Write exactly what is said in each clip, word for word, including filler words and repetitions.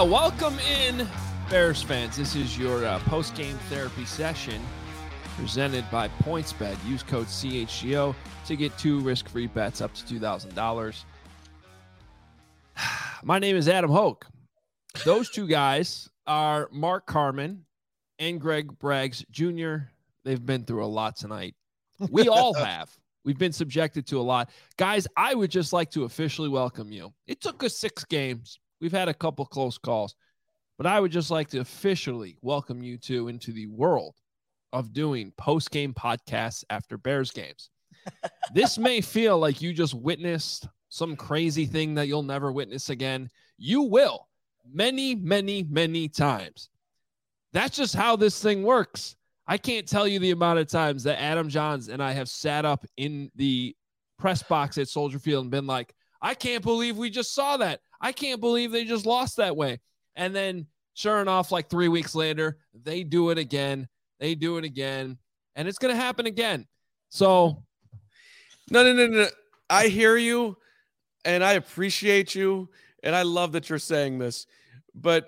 Well, welcome in, Bears fans. This is your uh, post-game therapy session presented by PointsBet. Use code C H G O to get two risk-free bets up to two thousand dollars. My name is Adam Hoke. Those two guys are Mark Carman and Greg Braggs Junior They've been through a lot tonight. We all have. We've been subjected to a lot. Guys, I would just like to officially welcome you. It took us six games. We've had a couple close calls, but I would just like to officially welcome you two into the world of doing post-game podcasts after Bears games. This may feel like you just witnessed some crazy thing that you'll never witness again. You will many, many, many times. That's just how this thing works. I can't tell you the amount of times that Adam Johns and I have sat up in the press box at Soldier Field and been like, I can't believe we just saw that. I can't believe they just lost that way. And then sure enough, like three weeks later, they do it again. They do it again. And it's going to happen again. So. No, no, no, no. I hear you and I appreciate you. And I love that you're saying this. But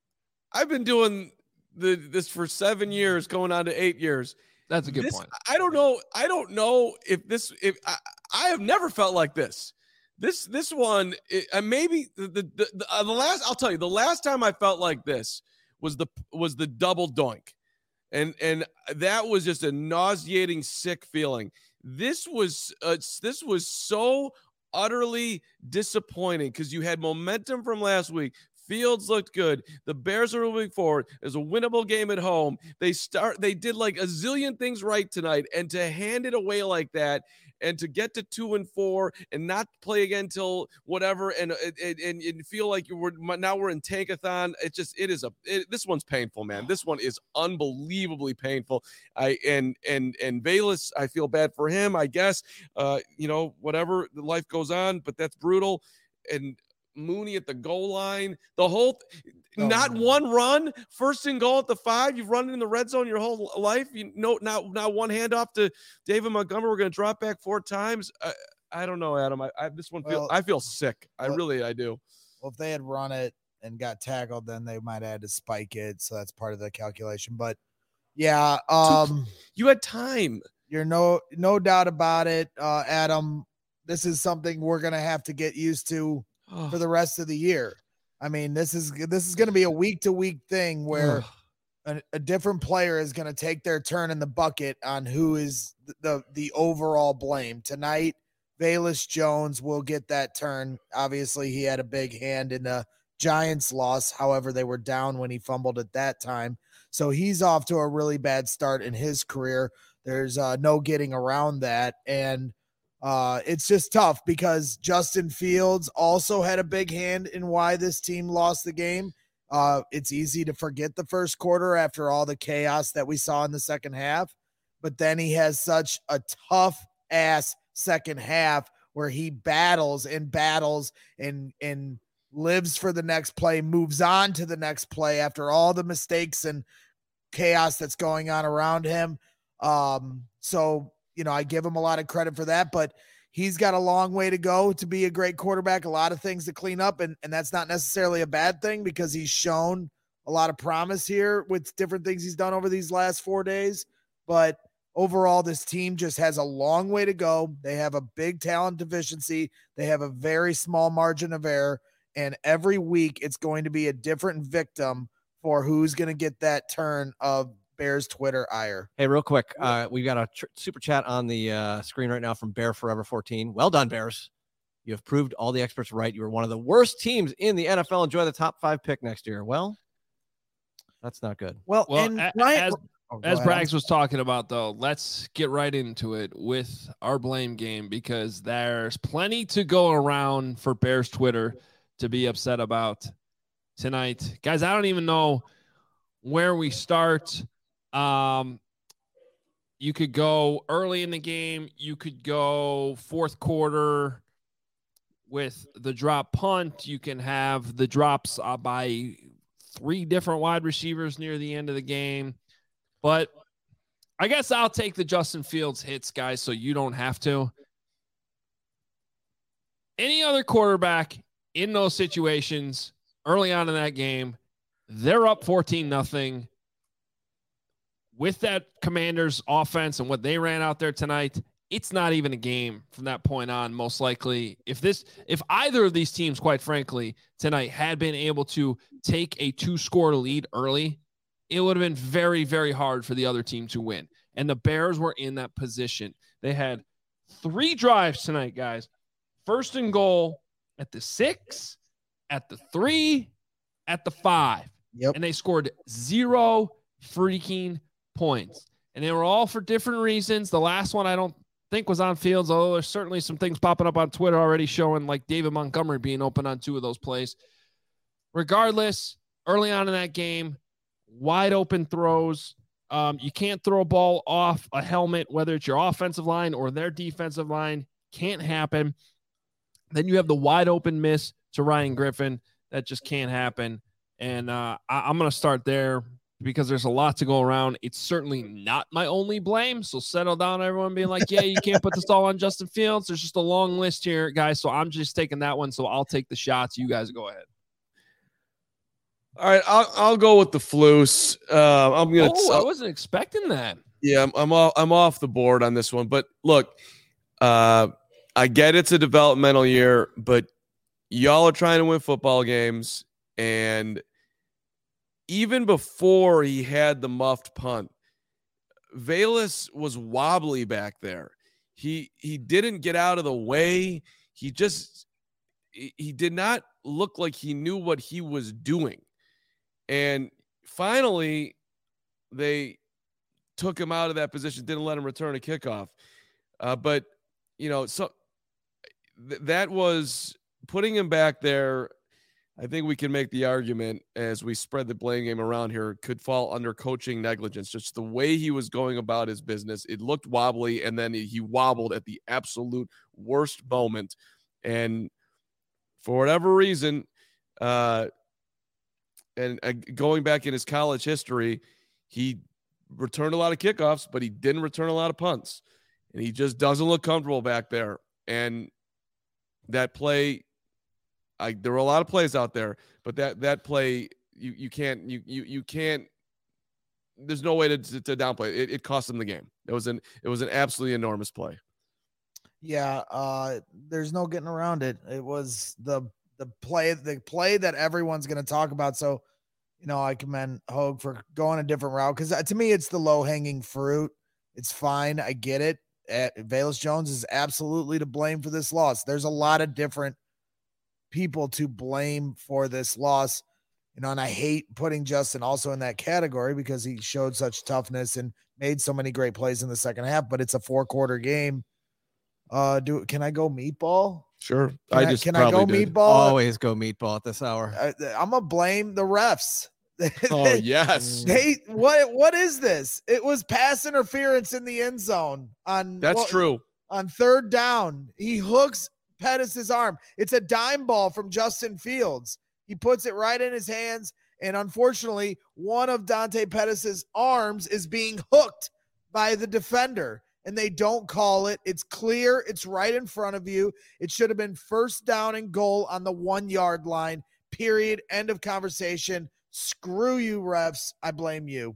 I've been doing the this for seven years, going on to eight years. That's a good this, point. I don't know. I don't know if this, if I, I have never felt like this. This this one, it, uh, maybe the the, the, uh, the last. I'll tell you, the last time I felt like this was the was the double doink, and and that was just a nauseating, sick feeling. This was uh, this was so utterly disappointing because you had momentum from last week. Fields looked good. The Bears are moving forward. There's a winnable game at home. They start. They did like a zillion things right tonight, and to hand it away like that. And to get to two and four and not play again till whatever, and and, and, and feel like you were now we're in tankathon. It just it is a it, this one's painful, man. This one is unbelievably painful. I and and and Velus, I feel bad for him. I guess uh, you know whatever, life goes on, but that's brutal. And Mooney at the goal line, the whole oh, not man. one run, first and goal at the five. You've run in the red zone your whole life. You know, now now one handoff to David Montgomery. We're going to drop back four times. I, I don't know, Adam. I, I this one feel well, I feel sick. I well, really I do. Well, if they had run it and got tackled, then they might have had to spike it. So that's part of the calculation. But yeah, um, you had time. You're no no doubt about it, uh, Adam. This is something we're going to have to get used to for the rest of the year. I mean, this is this is going to be a week to week thing where a, a different player is going to take their turn in the bucket on who is the, the the overall blame. Tonight, Velus Jones will get that turn. Obviously, he had a big hand in the Giants loss. However, they were down when he fumbled at that time. So he's off to a really bad start in his career. There's uh, no getting around that. And Uh, it's just tough because Justin Fields also had a big hand in why this team lost the game. Uh, it's easy to forget the first quarter after all the chaos that we saw in the second half, but then he has such a tough ass second half where he battles and battles and, and lives for the next play, moves on to the next play after all the mistakes and chaos that's going on around him. Um, so, You know, I give him a lot of credit for that, but he's got a long way to go to be a great quarterback, a lot of things to clean up, and, and that's not necessarily a bad thing because he's shown a lot of promise here with different things he's done over these last four days. But overall, this team just has a long way to go. They have a big talent deficiency. They have a very small margin of error, and every week it's going to be a different victim for who's going to get that turn of Bears Twitter ire. Hey, real quick, uh, we've got a tr- super chat on the uh, screen right now from Bear Forever fourteen. Well done, Bears. You have proved all the experts right. You were one of the worst teams in the N F L. Enjoy the top five pick next year. Well, that's not good. Well, well and a- Ryan, as, oh, as ahead. Braggs was talking about, though, let's get right into it with our blame game because there's plenty to go around for Bears Twitter to be upset about tonight. Guys, I don't even know where we start. Um, you could go early in the game. You could go fourth quarter with the drop punt. You can have the drops uh, by three different wide receivers near the end of the game. But I guess I'll take the Justin Fields hits, guys, so you don't have to. Any other quarterback in those situations early on in that game. They're up fourteen nothing. With that Commanders offense and what they ran out there tonight, it's not even a game from that point on, most likely. If this, if either of these teams, quite frankly, tonight had been able to take a two-score lead early, it would have been very, very hard for the other team to win. And the Bears were in that position. They had three drives tonight, guys. First and goal at the six, at the three, at the five. Yep. And they scored zero freaking points. And they were all for different reasons. The last one I don't think was on Fields, although there's certainly some things popping up on Twitter already showing like David Montgomery being open on two of those plays. Regardless, early on in that game, wide open throws. Um, you can't throw a ball off a helmet, whether it's your offensive line or their defensive line. Can't happen. Then you have the wide open miss to Ryan Griffin. That just can't happen. And uh, I, I'm going to start there because there's a lot to go around. It's certainly not my only blame. So settle down, everyone being like, yeah, you can't put this all on Justin Fields. There's just a long list here, guys. So I'm just taking that one. So I'll take the shots. You guys go ahead. All right, I'll I'll go with the Flus. Uh, I'm gonna. Oh, I wasn't expecting that. Yeah, I'm I'm off, I'm off the board on this one. But look, uh, I get it's a developmental year, but y'all are trying to win football games, and even before he had the muffed punt, Velus was wobbly back there. He he didn't get out of the way. He just he, he did not look like he knew what he was doing. And finally, they took him out of that position, didn't let him return a kickoff. Uh, but, you know, so th- that was putting him back there. I think we can make the argument as we spread the blame game around here could fall under coaching negligence. Just the way he was going about his business, it looked wobbly, and then he wobbled at the absolute worst moment. And for whatever reason, uh, and uh, going back in his college history, he returned a lot of kickoffs, but he didn't return a lot of punts. And he just doesn't look comfortable back there. And that play, I, there were a lot of plays out there, but that that play, you you can't you you you can't. There's no way to to, to downplay it. it. It cost him the game. It was an it was an absolutely enormous play. Yeah, uh, there's no getting around it. It was the the play the play that everyone's going to talk about. So, you know, I commend Hogue for going a different route because to me, it's the low hanging fruit. It's fine. I get it. Uh, Velus Jones is absolutely to blame for this loss. There's a lot of different people to blame for this loss, you know, and I hate putting Justin also in that category because he showed such toughness and made so many great plays in the second half, but it's a four quarter game. Uh, do can I go meatball? Sure. Can I I just can I go did. meatball? Always go meatball at this hour. I, I'm gonna blame the refs. Oh they, yes. They what what is this? It was pass interference in the end zone on That's well, true. On third down. He hooks Pettis' arm. It's a dime ball from Justin Fields. He puts it right in his hands, and unfortunately, one of Dante Pettis' arms is being hooked by the defender, and they don't call it. It's clear. It's right in front of you. It should have been first down and goal on the one-yard line, period. End of conversation. Screw you, refs. I blame you.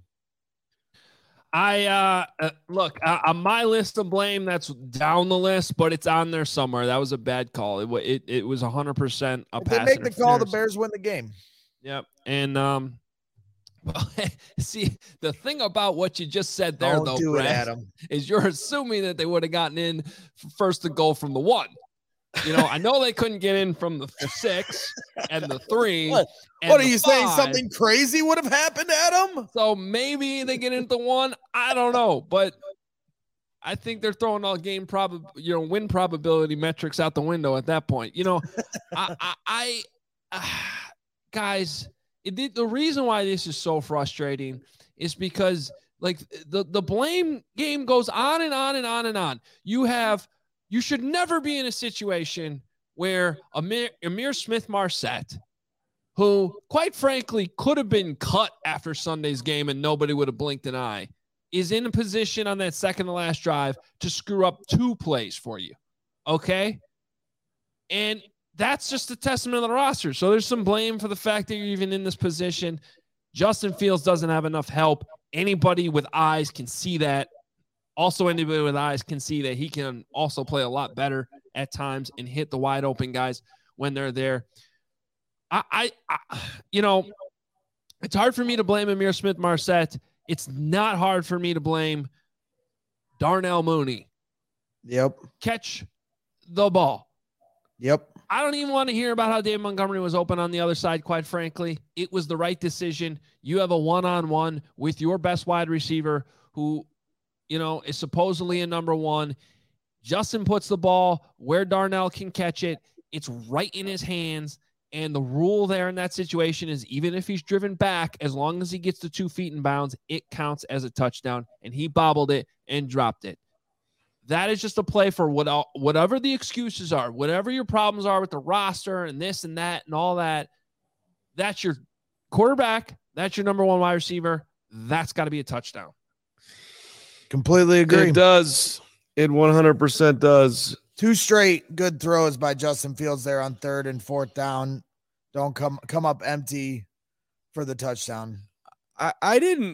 I uh, uh look uh, on my list of blame. That's down the list, but it's on there somewhere. That was a bad call. It it, it was one hundred percent a If pass. they make the call, the interference. Bears win the game. Yep, and um, well, see the thing about what you just said there, Don't though, do it, Brad, Adam. is you're assuming that they would have gotten in first to goal from the one. You know, I know they couldn't get in from the six and the three. What, and what are the you saying? five. Something crazy would have happened, Adam? So maybe they get into one. I don't know, but I think they're throwing all game prob, you know, win probability metrics out the window at that point. You know, I, I, I uh, guys, it, the reason why this is so frustrating is because like the the blame game goes on and on and on and on. You have. You should never be in a situation where Amir, Amir Smith-Marset, who, quite frankly, could have been cut after Sunday's game and nobody would have blinked an eye, is in a position on that second to last drive to screw up two plays for you. Okay? And that's just a testament of the roster. So there's some blame for the fact that you're even in this position. Justin Fields doesn't have enough help. Anybody with eyes can see that. Also, anybody with eyes can see that he can also play a lot better at times and hit the wide open guys when they're there. I, I, I you know, it's hard for me to blame Ihmir Smith-Marsette. It's not hard for me to blame Darnell Mooney. Yep. Catch the ball. Yep. I don't even want to hear about how Dave Montgomery was open on the other side, quite frankly. It was the right decision. You have a one-on-one with your best wide receiver who, you know, is supposedly a number one. Justin puts the ball where Darnell can catch it. It's right in his hands. And the rule there in that situation is even if he's driven back, as long as he gets to two feet in bounds, it counts as a touchdown. And he bobbled it and dropped it. That is just a play for what, whatever the excuses are, whatever your problems are with the roster and this and that and all that. That's your quarterback. That's your number one wide receiver. That's got to be a touchdown. Completely agree. It does. It one hundred percent does. Two straight good throws by Justin Fields there on third and fourth down. Don't come come up empty for the touchdown. I, I didn't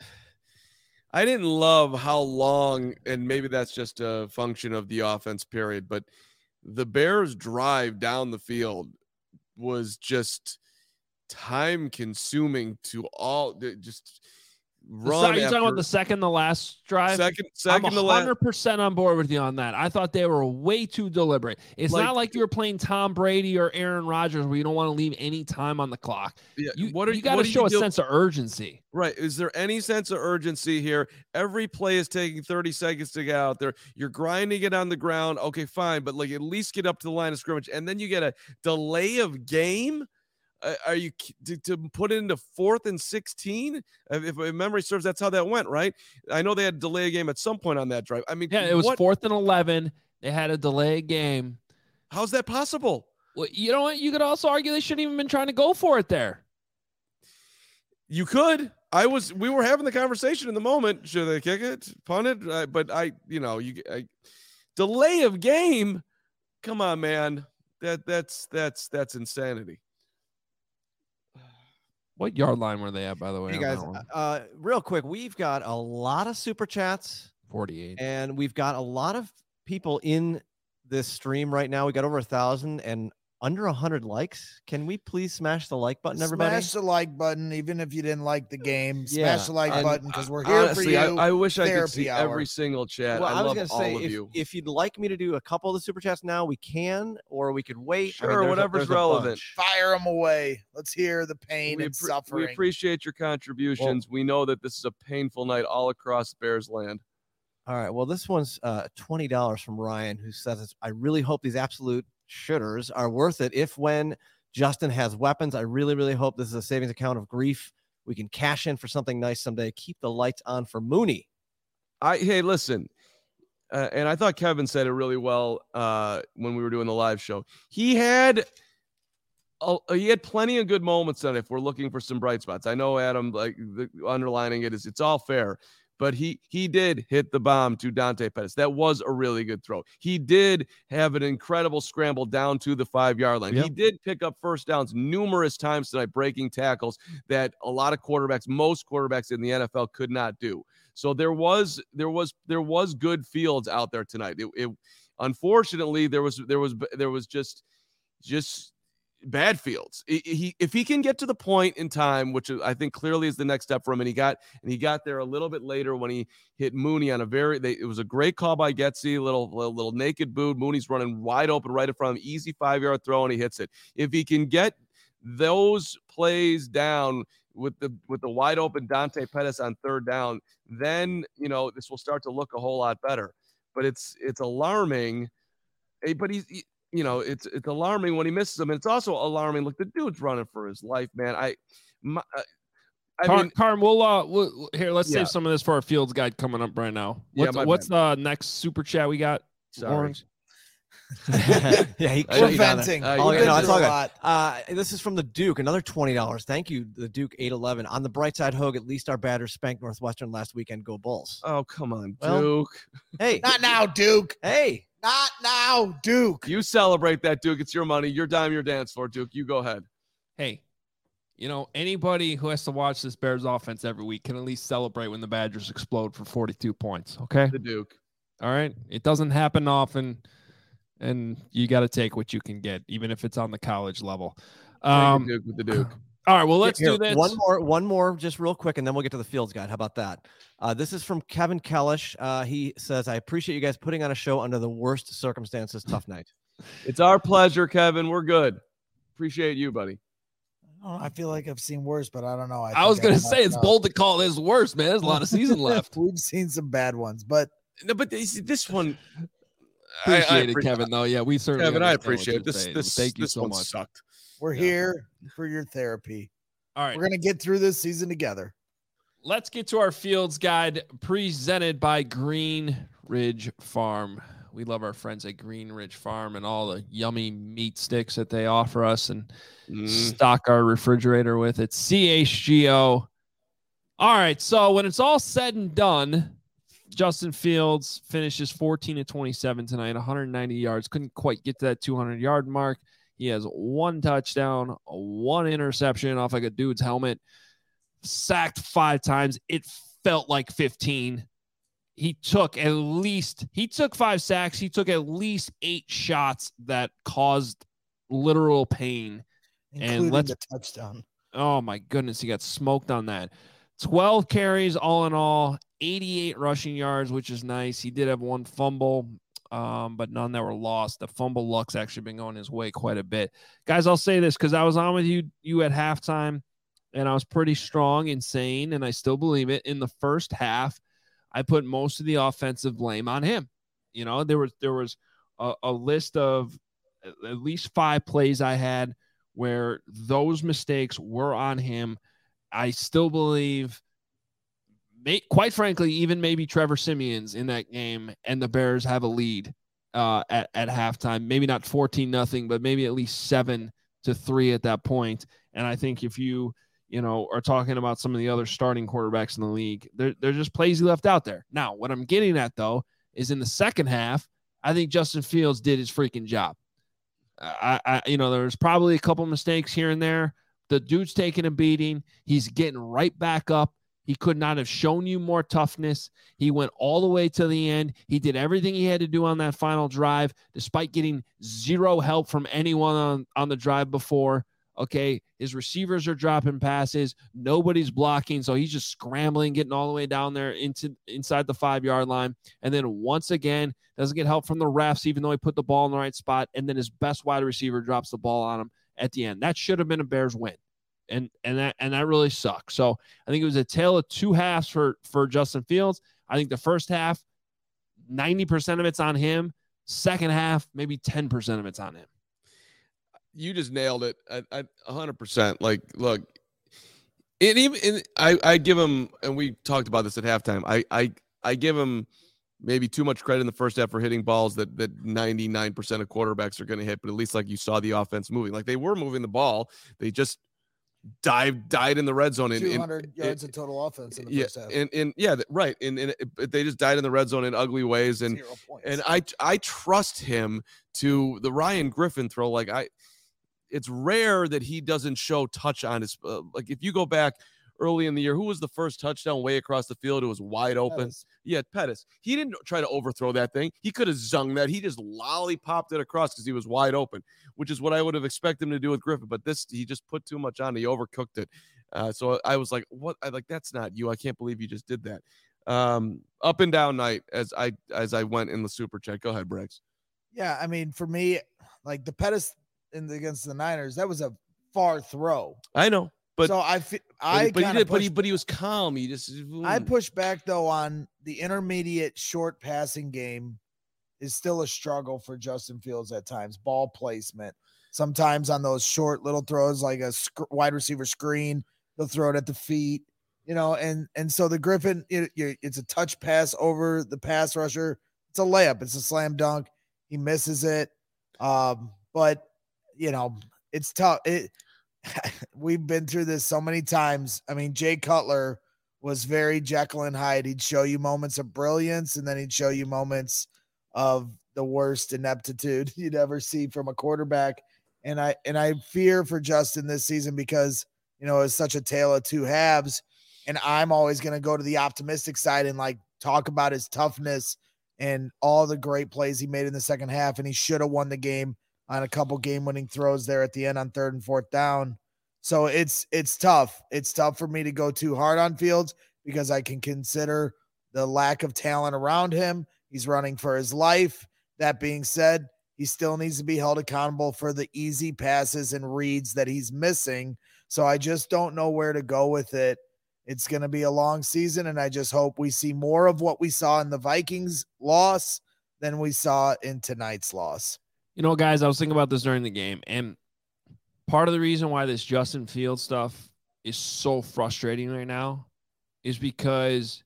I didn't love how long, and maybe that's just a function of the offense period, but the Bears drive down the field was just time consuming to all just run. Are you talking about the second, the last drive? Second, second I'm to one hundred last. percent on board with you on that. I thought they were way too deliberate. It's Like- not like you were playing Tom Brady or Aaron Rodgers where you don't want to leave any time on the clock. Yeah, You, what are you got to what are show you a do- sense of urgency. Right. Is there any sense of urgency here? Every play is taking thirty seconds to get out there. You're grinding it on the ground. Okay, fine. But like at least get up to the line of scrimmage. And then you get a delay of game. Uh, are you to, to put it into fourth and sixteen? If, if memory serves, that's how that went, right? I know they had a delay a game at some point on that drive. I mean, Yeah, it was what, fourth and eleven. They had a delay game. how's that possible? Well, you know what? You could also argue they shouldn't even been trying to go for it there. You could. I was. We were having the conversation in the moment. Should they kick it, punt it? Uh, but I, you know, you I, delay of game. Come on, man. That that's that's that's insanity. What yard line were they at, by the way? Hey on guys, that one? uh, real quick, we've got a lot of super chats forty-eight. and we've got a lot of people in this stream right now. We got over a thousand and under a hundred likes. Can we please smash the like button, everybody? Smash the like button, even if you didn't like the game. Smash Yeah, the like and, button because we're uh, here honestly, for you. I, I wish I could Therapy see hour. every single chat. Well, I, I, was love gonna all say of if, you. if you'd like me to do a couple of the super chats now, we can, or we could wait. I mean, Sure, there's a- whatever's there's a relevant. bunch. Fire them away. Let's hear the pain we, and appre- suffering. we appreciate your contributions. we know that this is a painful night all across Bears land. All right. Well, this one's uh, twenty dollars from Ryan, who says, I really hope these absolute shooters are worth it. If when Justin has weapons, I really, really hope this is a savings account of grief. We can cash in for something nice someday. Keep the lights on for Mooney. I hey, listen, uh, and I thought Kevin said it really well uh, when we were doing the live show. He had a, he had plenty of good moments on it. If we're looking for some bright spots, I know Adam like the, underlining it is it's all fair. But he he did hit the bomb to Dante Pettis. That was a really good throw. He did have an incredible scramble down to the five-yard line. Yep. He did pick up first downs numerous times tonight, breaking tackles that a lot of quarterbacks, most quarterbacks in the N F L could not do. So there was there was there was good fields out there tonight. It, it unfortunately there was there was there was just just bad fields. He, he if he can get to the point in time, which I think clearly is the next step for him, and he got and he got there a little bit later when he hit Mooney on a very they, it was a great call by Getsy, little, little little naked boot. Mooney's running wide open right in front of him, easy five yard throw, and he hits it. If he can get those plays down with the with the wide open Dante Pettis on third down, then you know this will start to look a whole lot better. But it's it's alarming. But he's he, you know, it's it's alarming when he misses them, and it's also alarming. Look, the dude's running for his life, man. I, my, I Car- mean, Carm, we'll, uh, we'll here. Let's Yeah. save some of this for our Fields guide coming up right now. Yeah, What's, my what's the next super chat we got? sorry. Lawrence? yeah, he I- We're shut you down there. venting. Uh, We've yeah, been no, through it's all a good. lot. Uh, this is from the Duke, another twenty dollars. Thank you, the Duke eight eleven. On the bright side, Hogue, at least our batters spanked Northwestern last weekend. Go Bulls. Oh, come on, Well, Duke. Hey, Not now, Duke. hey, Not now, Duke. You celebrate that, Duke. It's your money, your dime, your dance floor, Duke. You go ahead. Hey, you know, anybody who has to watch this Bears offense every week can at least celebrate when the Badgers explode for forty-two points, okay? The Duke. All right? It doesn't happen often, and you got to take what you can get, even if it's on the college level. Um, Duke with the Duke. All right, well, let's Here, do this. One more, one more, just real quick, and then we'll get to the Fields guide. How about that? Uh, this is from Kevin Kellish. Uh, he says, I appreciate you guys putting on a show under the worst circumstances. Tough night. It's our pleasure, Kevin. We're good. Appreciate you, buddy. Oh, I feel like I've seen worse, but I don't know. I, I was think I going to say, messed it's up. bold to call this worse, man. There's a lot of season left. We've seen some bad ones, but No, but this, this one, I- I Appreciate it, appre- Kevin, though. Yeah, we certainly Kevin, I understand what appreciate you're it. This, saying. this, Thank you this so one much. sucked. we're Yeah. here for your therapy. All right. We're going to get through this season together. Let's get to our Fields guide presented by Green Ridge Farm. We love our friends at Green Ridge Farm and all the yummy meat sticks that they offer us and Mm. stock our refrigerator with. It's C H G O. All right. So when it's all said and done, Justin Fields finishes fourteen to twenty-seven tonight, one hundred ninety yards. Couldn't quite get to that two hundred yard mark. He has one touchdown, one interception off like a dude's helmet, sacked five times. It felt like fifteen. He took at least, he took five sacks. He took at least eight shots that caused literal pain. Including let's- the touchdown. Oh my goodness, he got smoked on that. twelve carries all in all, eighty-eight rushing yards, which is nice. He did have one fumble, um, but none that were lost. The fumble luck's actually been going his way quite a bit. Guys, I'll say this because I was on with you you at halftime, and I was pretty strong and sane, and I still believe it. In the first half, I put most of the offensive blame on him. You know, there was there was a, a list of at least five plays I had where those mistakes were on him. I still believe, may, quite frankly, even maybe Trevor Simeon's in that game, and the Bears have a lead uh, at, at halftime. Maybe not fourteen nothing, but maybe at least seven to three at that point. And I think if you, you know, are talking about some of the other starting quarterbacks in the league, they're, they're just plays he left out there. Now, what I'm getting at, though, is in the second half, I think Justin Fields did his freaking job. I, I, you know, there's probably a couple mistakes here and there. The dude's taking a beating. He's getting right back up. He could not have shown you more toughness. He went all the way to the end. He did everything he had to do on that final drive, despite getting zero help from anyone on, on the drive before. Okay, his receivers are dropping passes. Nobody's blocking, so he's just scrambling, getting all the way down there into inside the five-yard line. And then once again, doesn't get help from the refs, even though he put the ball in the right spot. And then his best wide receiver drops the ball on him at the end. That should have been a Bears win, and and that and that really sucks. So I think it was a tale of two halves for for Justin Fields. I think the first half, ninety percent of it's on him. Second half, maybe ten percent of it's on him. You just nailed it at, at one hundred percent. Like, look, it even and I, I give him, and we talked about this at halftime. I, I, I give him maybe too much credit in the first half for hitting balls that that ninety-nine percent of quarterbacks are going to hit. But at least, like, you saw the offense moving, like they were moving the ball. They just dive died in the red zone. In, two in, hundred yards of total offense in the yeah, first half. and and yeah, th- right. And, and it, they just died in the red zone in ugly ways. And Zero points. and I I trust him to the Ryan Griffin throw. Like I. It's rare that he doesn't show touch on his uh, like if you go back early in the year, who was the first touchdown way across the field? It was wide open. Pettis. Yeah, Pettis. He didn't try to overthrow that thing. He could have zung that. He just lollipopped it across because he was wide open, which is what I would have expected him to do with Griffin. But this, he just put too much on. He overcooked it. Uh, so I was like, what? I like, that's not you. I can't believe you just did that. Um, up and down night as I as I went in the super chat. Go ahead, Briggs. Yeah, I mean, for me, like the Pettis in the, against the Niners, that was a far throw. I know, but so I, fi- but, I, but he kinda did, but pushed- he but he was calm. He just I push back though on the intermediate short passing game is still a struggle for Justin Fields at times. Ball placement, sometimes on those short little throws, like a sc- wide receiver screen, they'll throw it at the feet, you know. And and so the Griffin, it, it's a touch pass over the pass rusher. It's a layup. It's a slam dunk. He misses it, um, but you know it's tough. It. We've been through this so many times. I mean, Jay Cutler was very Jekyll and Hyde. He'd show you moments of brilliance, and then he'd show you moments of the worst ineptitude you'd ever see from a quarterback. And I and I fear for Justin this season because, you know, it's such a tale of two halves. And I'm always going to go to the optimistic side and like talk about his toughness and all the great plays he made in the second half. And he should have won the game on a couple game winning throws there at the end on third and fourth down. So it's, it's tough. It's tough for me to go too hard on Fields because I can consider the lack of talent around him. He's running for his life. That being said, he still needs to be held accountable for the easy passes and reads that he's missing. So I just don't know where to go with it. It's going to be a long season, and I just hope we see more of what we saw in the Vikings loss than we saw in tonight's loss. You know, guys, I was thinking about this during the game, and part of the reason why this Justin Fields stuff is so frustrating right now is because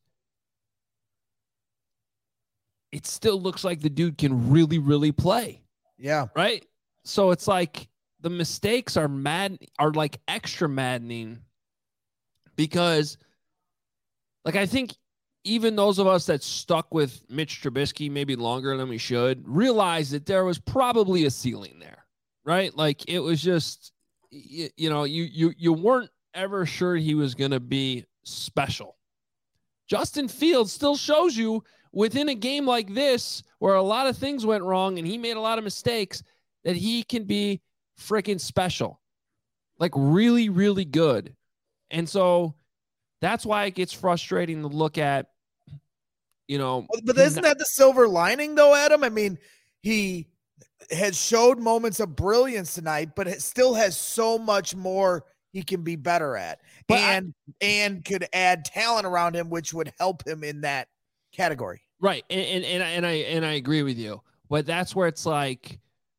it still looks like the dude can really, really play. Yeah. Right? So it's like the mistakes are mad, are like extra maddening because, like, I think even those of us that stuck with Mitch Trubisky maybe longer than we should realize that there was probably a ceiling there, right? Like, it was just, you, you know, you you you weren't ever sure he was going to be special. Justin Fields still shows you within a game like this where a lot of things went wrong and he made a lot of mistakes that he can be freaking special, like really, really good. And so that's why it gets frustrating to look at, you know. But isn't that the silver lining though, Adam? I mean, he has showed moments of brilliance tonight, but it still has so much more he can be better at. But and I, and could add talent around him, which would help him in that category. Right. And, and, and, and I, and I agree with you, but that's where it's like,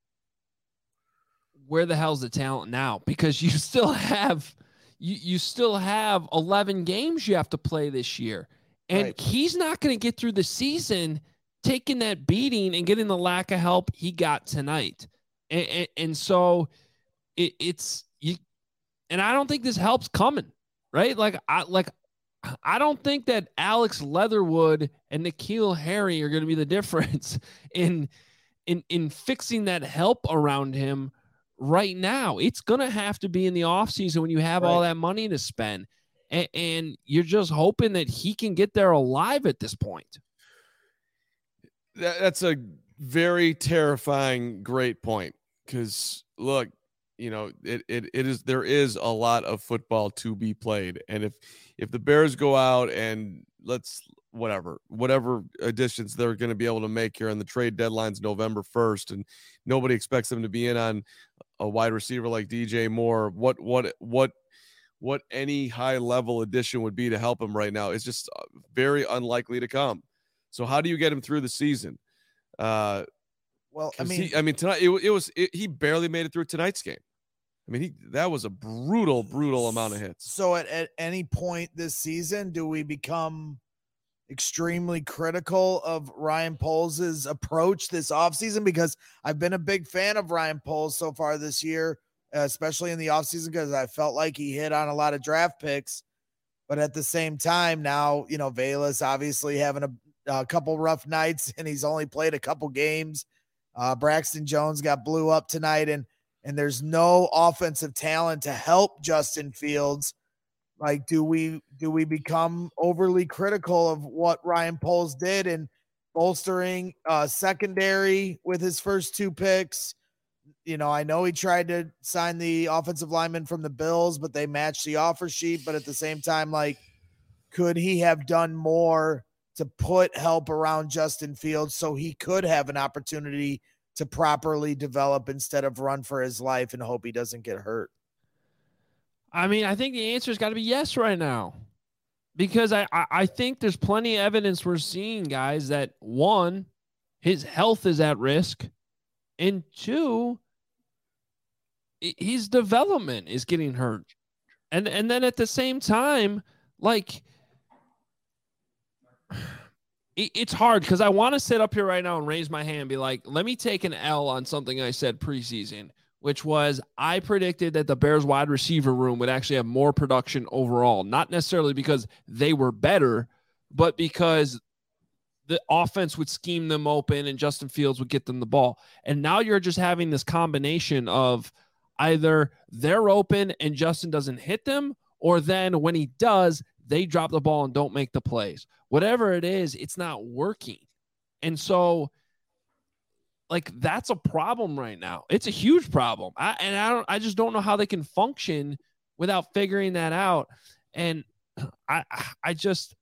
where the hell's the talent now? Because you still have, you, you still have eleven games you have to play this year. And right. He's not going to get through the season taking that beating and getting the lack of help he got tonight. And, and, and so it, it's, you, and I don't think this help's coming, right? Like, I, like, I don't think that Alex Leatherwood and N'Keal Harry are going to be the difference in, in, in fixing that help around him right now. It's going to have to be in the offseason when you have right. all that money to spend. And, and you're just hoping that he can get there alive at this point. That, that's a very terrifying, great point. Because look, you know, it, it it is there is a lot of football to be played. And if if the Bears go out and let's whatever, whatever additions they're going to be able to make here, and the trade deadline's November first, and nobody expects them to be in on a wide receiver like D J Moore, what what what what any high level addition would be to help him right now is just very unlikely to come. So how do you get him through the season? Uh, well, I mean, he, I mean tonight it, it was it, he barely made it through tonight's game. I mean, he that was a brutal, brutal amount of hits. So at, at any point this season, do we become extremely critical of Ryan Poles' approach this offseason? Because I've been a big fan of Ryan Poles so far this year, especially in the offseason, because I felt like he hit on a lot of draft picks. But at the same time, now, you know, Velus obviously having a, a couple rough nights, and he's only played a couple games. Uh, Braxton Jones got blew up tonight, and and there's no offensive talent to help Justin Fields. Like, do we do we become overly critical of what Ryan Poles did in bolstering uh, secondary with his first two picks? You know, I know he tried to sign the offensive lineman from the Bills, but they matched the offer sheet. But at the same time, like, could he have done more to put help around Justin Fields so he could have an opportunity to properly develop instead of run for his life and hope he doesn't get hurt? I mean, I think the answer has got to be yes right now, because I, I, I think there's plenty of evidence we're seeing, guys, that one, his health is at risk, and two, his development is getting hurt. And, and then at the same time, like, it, it's hard because I want to sit up here right now and raise my hand and be like, let me take an L on something I said preseason, which was I predicted that the Bears wide receiver room would actually have more production overall, not necessarily because they were better, but because the offense would scheme them open and Justin Fields would get them the ball. And now you're just having this combination of either they're open and Justin doesn't hit them, or then when he does, they drop the ball and don't make the plays. Whatever it is, it's not working. And so, like, that's a problem right now. It's a huge problem. I, and I don't, I just don't know how they can function without figuring that out. And I, I just,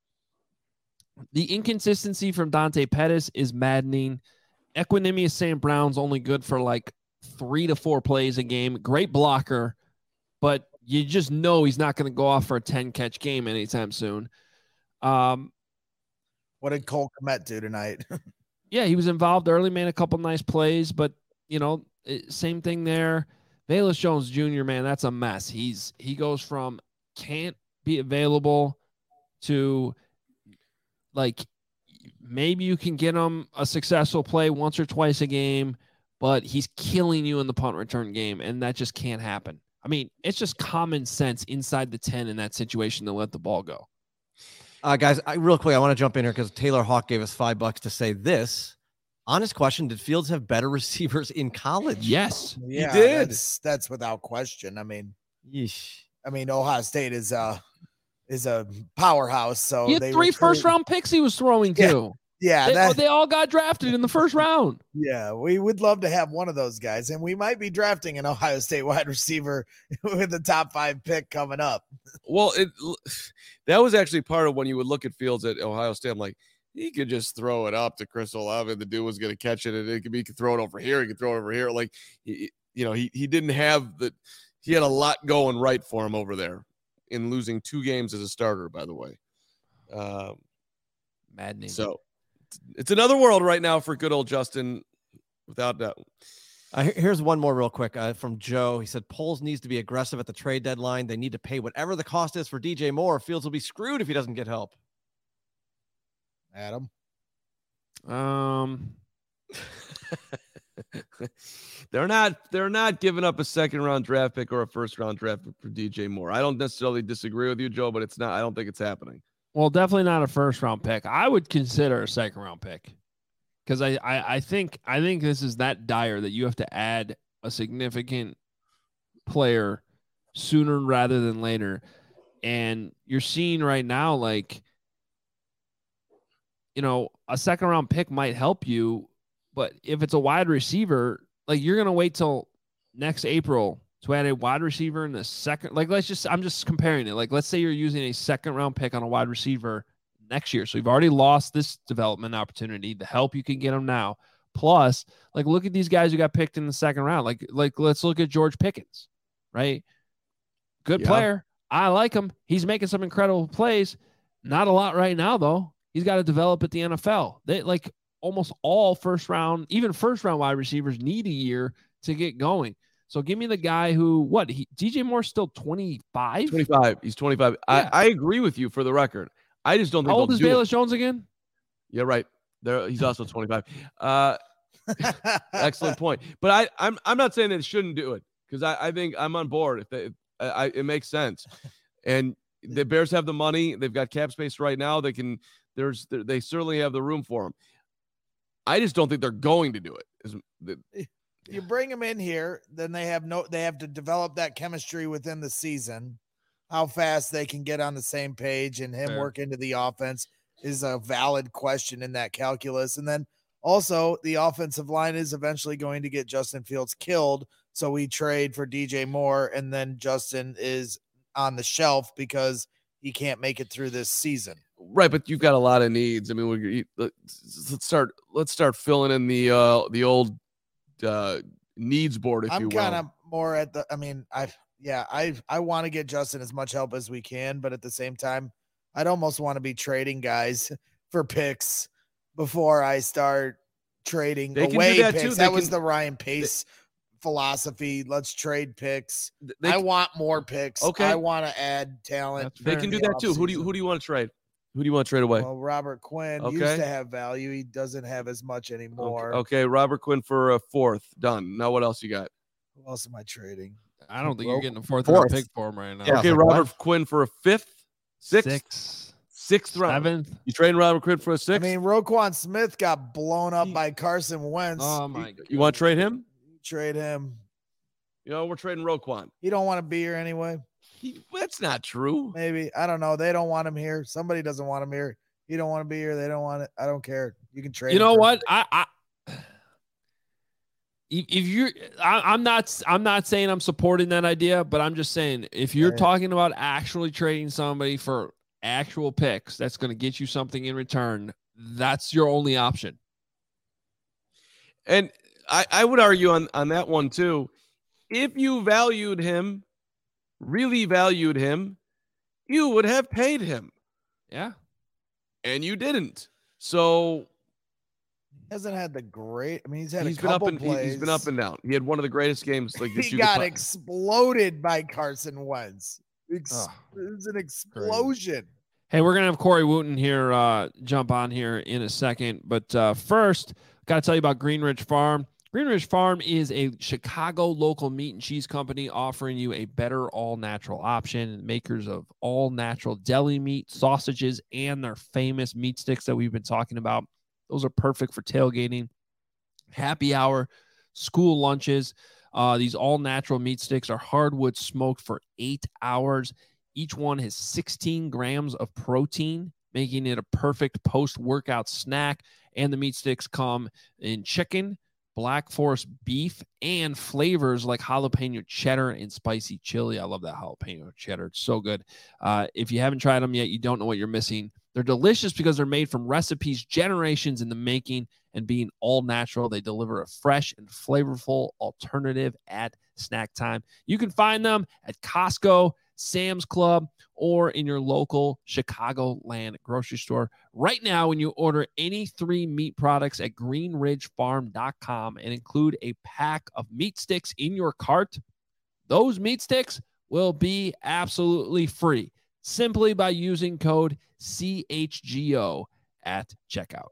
the inconsistency from Dante Pettis is maddening. Equinemius Saint Brown's only good for like three to four plays a game. Great blocker, but you just know he's not going to go off for a ten catch game anytime soon. Um, what did Cole Kmet do tonight? Yeah, he was involved early, made a couple nice plays, but you know, it, same thing there. Velus Jones Junior, man, that's a mess. He's he goes from can't be available to like maybe you can get him a successful play once or twice a game, but he's killing you in the punt return game, and that just can't happen. I mean, it's just common sense inside the ten in that situation to let the ball go. Uh, guys, I, real quick, I want to jump in here because Taylor Hawk gave us five bucks to say this. Honest question, did Fields have better receivers in college? Yes, yeah, he did. That's, that's without question. I mean, Yeesh. I mean, Ohio State is uh is a powerhouse. So he had they three recruit- first round picks he was throwing Yeah. to. Yeah, They, that, they all got drafted in the first round. yeah, we would love to have one of those guys, and we might be drafting an Ohio State wide receiver with the top five pick coming up. Well, it that was actually part of when you would look at Fields at Ohio State. I'm like, he could just throw it up to Chris Olave, and the dude was going to catch it, and it could be he could throw it over here, he could throw it over here. Like, he, you know, he he didn't have the he had a lot going right for him over there in losing two games as a starter. By the way, um, Maddening. so it's another world right now for good old Justin, without doubt. Uh, here's one more real quick uh, from Joe. He said, Poles needs to be aggressive at the trade deadline. They need to pay whatever the cost is for D J Moore. Fields will be screwed if he doesn't get help. Adam, Um, they're not they're not giving up a second round draft pick or a first round draft pick for D J Moore. I don't necessarily disagree with you, Joe, but it's not. I don't think it's happening. well, definitely not a first round pick. I would consider a second round pick because I, I I think I think this is that dire that you have to add a significant player sooner rather than later, and you're seeing right now like, you know, a second round pick might help you, but if it's a wide receiver, like you're gonna wait till next April to add a wide receiver in the second. Like, let's just I'm just comparing it. Like, let's say you're using a second round pick on a wide receiver next year, so you've already lost this development opportunity. The help you can get them now, plus, like, look at these guys who got picked in the second round. Like, like let's look at George Pickens, right? Good Yeah. player. I like him. He's making some incredible plays. Not a lot right now, though. He's got to develop at the N F L. They like almost all first round, even first round wide receivers need a year to get going. So give me the guy who, what, he, D J Moore's still twenty-five? twenty-five. He's twenty-five. Yeah. I, I agree with you for the record. I just don't think How old they'll is do Velus it. Jones again? Yeah, right. There, he's also twenty-five. Uh, excellent point. But I, I'm I'm not saying that it shouldn't do it because I, I think I'm on board. If, they, if I, I, it makes sense, and the Bears have the money. They've got cap space right now. They can. There's they certainly have the room for them. I just don't think they're going to do it. Is the, You bring them in here, then they have no, they have to develop that chemistry within the season. How fast they can get on the same page and him Fair. work into the offense is a valid question in that calculus. And then also the offensive line is eventually going to get Justin Fields killed. So we trade for D J Moore, and then Justin is on the shelf because he can't make it through this season. right, but you've got a lot of needs. I mean, we let's let's start let's start filling in the uh the old uh needs board, if you I'm will. kind of more at the, I mean, I, yeah, I, I want to get Justin as much help as we can, but at the same time, I'd almost want to be trading guys for picks before I start trading They can do away that picks. too. That They was can- the Ryan Pace philosophy. Let's trade picks. They, I want more picks. Okay. I want to add talent. That's they fair. can in do the that too. Who do you offseason. who do you want to trade? Who do you want to trade away? Well, Robert Quinn used Okay. to have value. He doesn't have as much anymore. Okay, okay, Robert Quinn for a fourth. Done. Now what else you got? Who else am I trading? I don't think you're Well, getting a fourth, fourth. round pick for him right now. Yeah, Okay, like, Robert Quinn for a fifth, sixth, Six. Sixth round. Seventh. You trading Robert Quinn for a sixth? I mean, Roquan Smith got blown up by Carson Wentz. Oh my you, you want to trade him? Trade him. You know, we're trading Roquan. He don't want to be here anyway. He, that's not true. Maybe. I don't know. They don't want him here. Somebody doesn't want him here. He don't want to be here. They don't want it. I don't care. You can trade You him know for- what? I, I if if you're, I, I'm not, I'm not saying I'm supporting that idea, but I'm just saying if you're Yeah. talking about actually trading somebody for actual picks, that's going to get you something in return. That's your only option. And I, I would argue on, on that one too. If you valued him, really valued him, you would have paid him. Yeah. And you didn't. So He hasn't had the great. I mean, he's had he's a been up couple and he- plays. he's been up and down. He had one of the greatest games like this He you could got po- exploded by Carson Wentz. Ex- Ugh, it was an explosion. Hey, we're gonna have Corey Wooten here uh, jump on here in a second, but uh, first, got to tell you about Greenridge Farm. Greenridge Farm is a Chicago local meat and cheese company offering you a better all-natural option. Makers of all-natural deli meat, sausages, and their famous meat sticks that we've been talking about. Those are perfect for tailgating, happy hour, school lunches. Uh, these all-natural meat sticks are hardwood smoked for eight hours. Each one has sixteen grams of protein, making it a perfect post-workout snack. And the meat sticks come in chicken, Black Forest beef, and flavors like jalapeno cheddar and spicy chili. I love that jalapeno cheddar. It's so good. Uh, if you haven't tried them yet, you don't know what you're missing. They're delicious because they're made from recipes generations in the making, and being all natural, they deliver a fresh and flavorful alternative at snack time. You can find them at Costco, Sam's Club, or in your local Chicagoland grocery store. Right now, when you order any three meat products at green ridge farm dot com and include a pack of meat sticks in your cart, those meat sticks will be absolutely free simply by using code C H G O at checkout.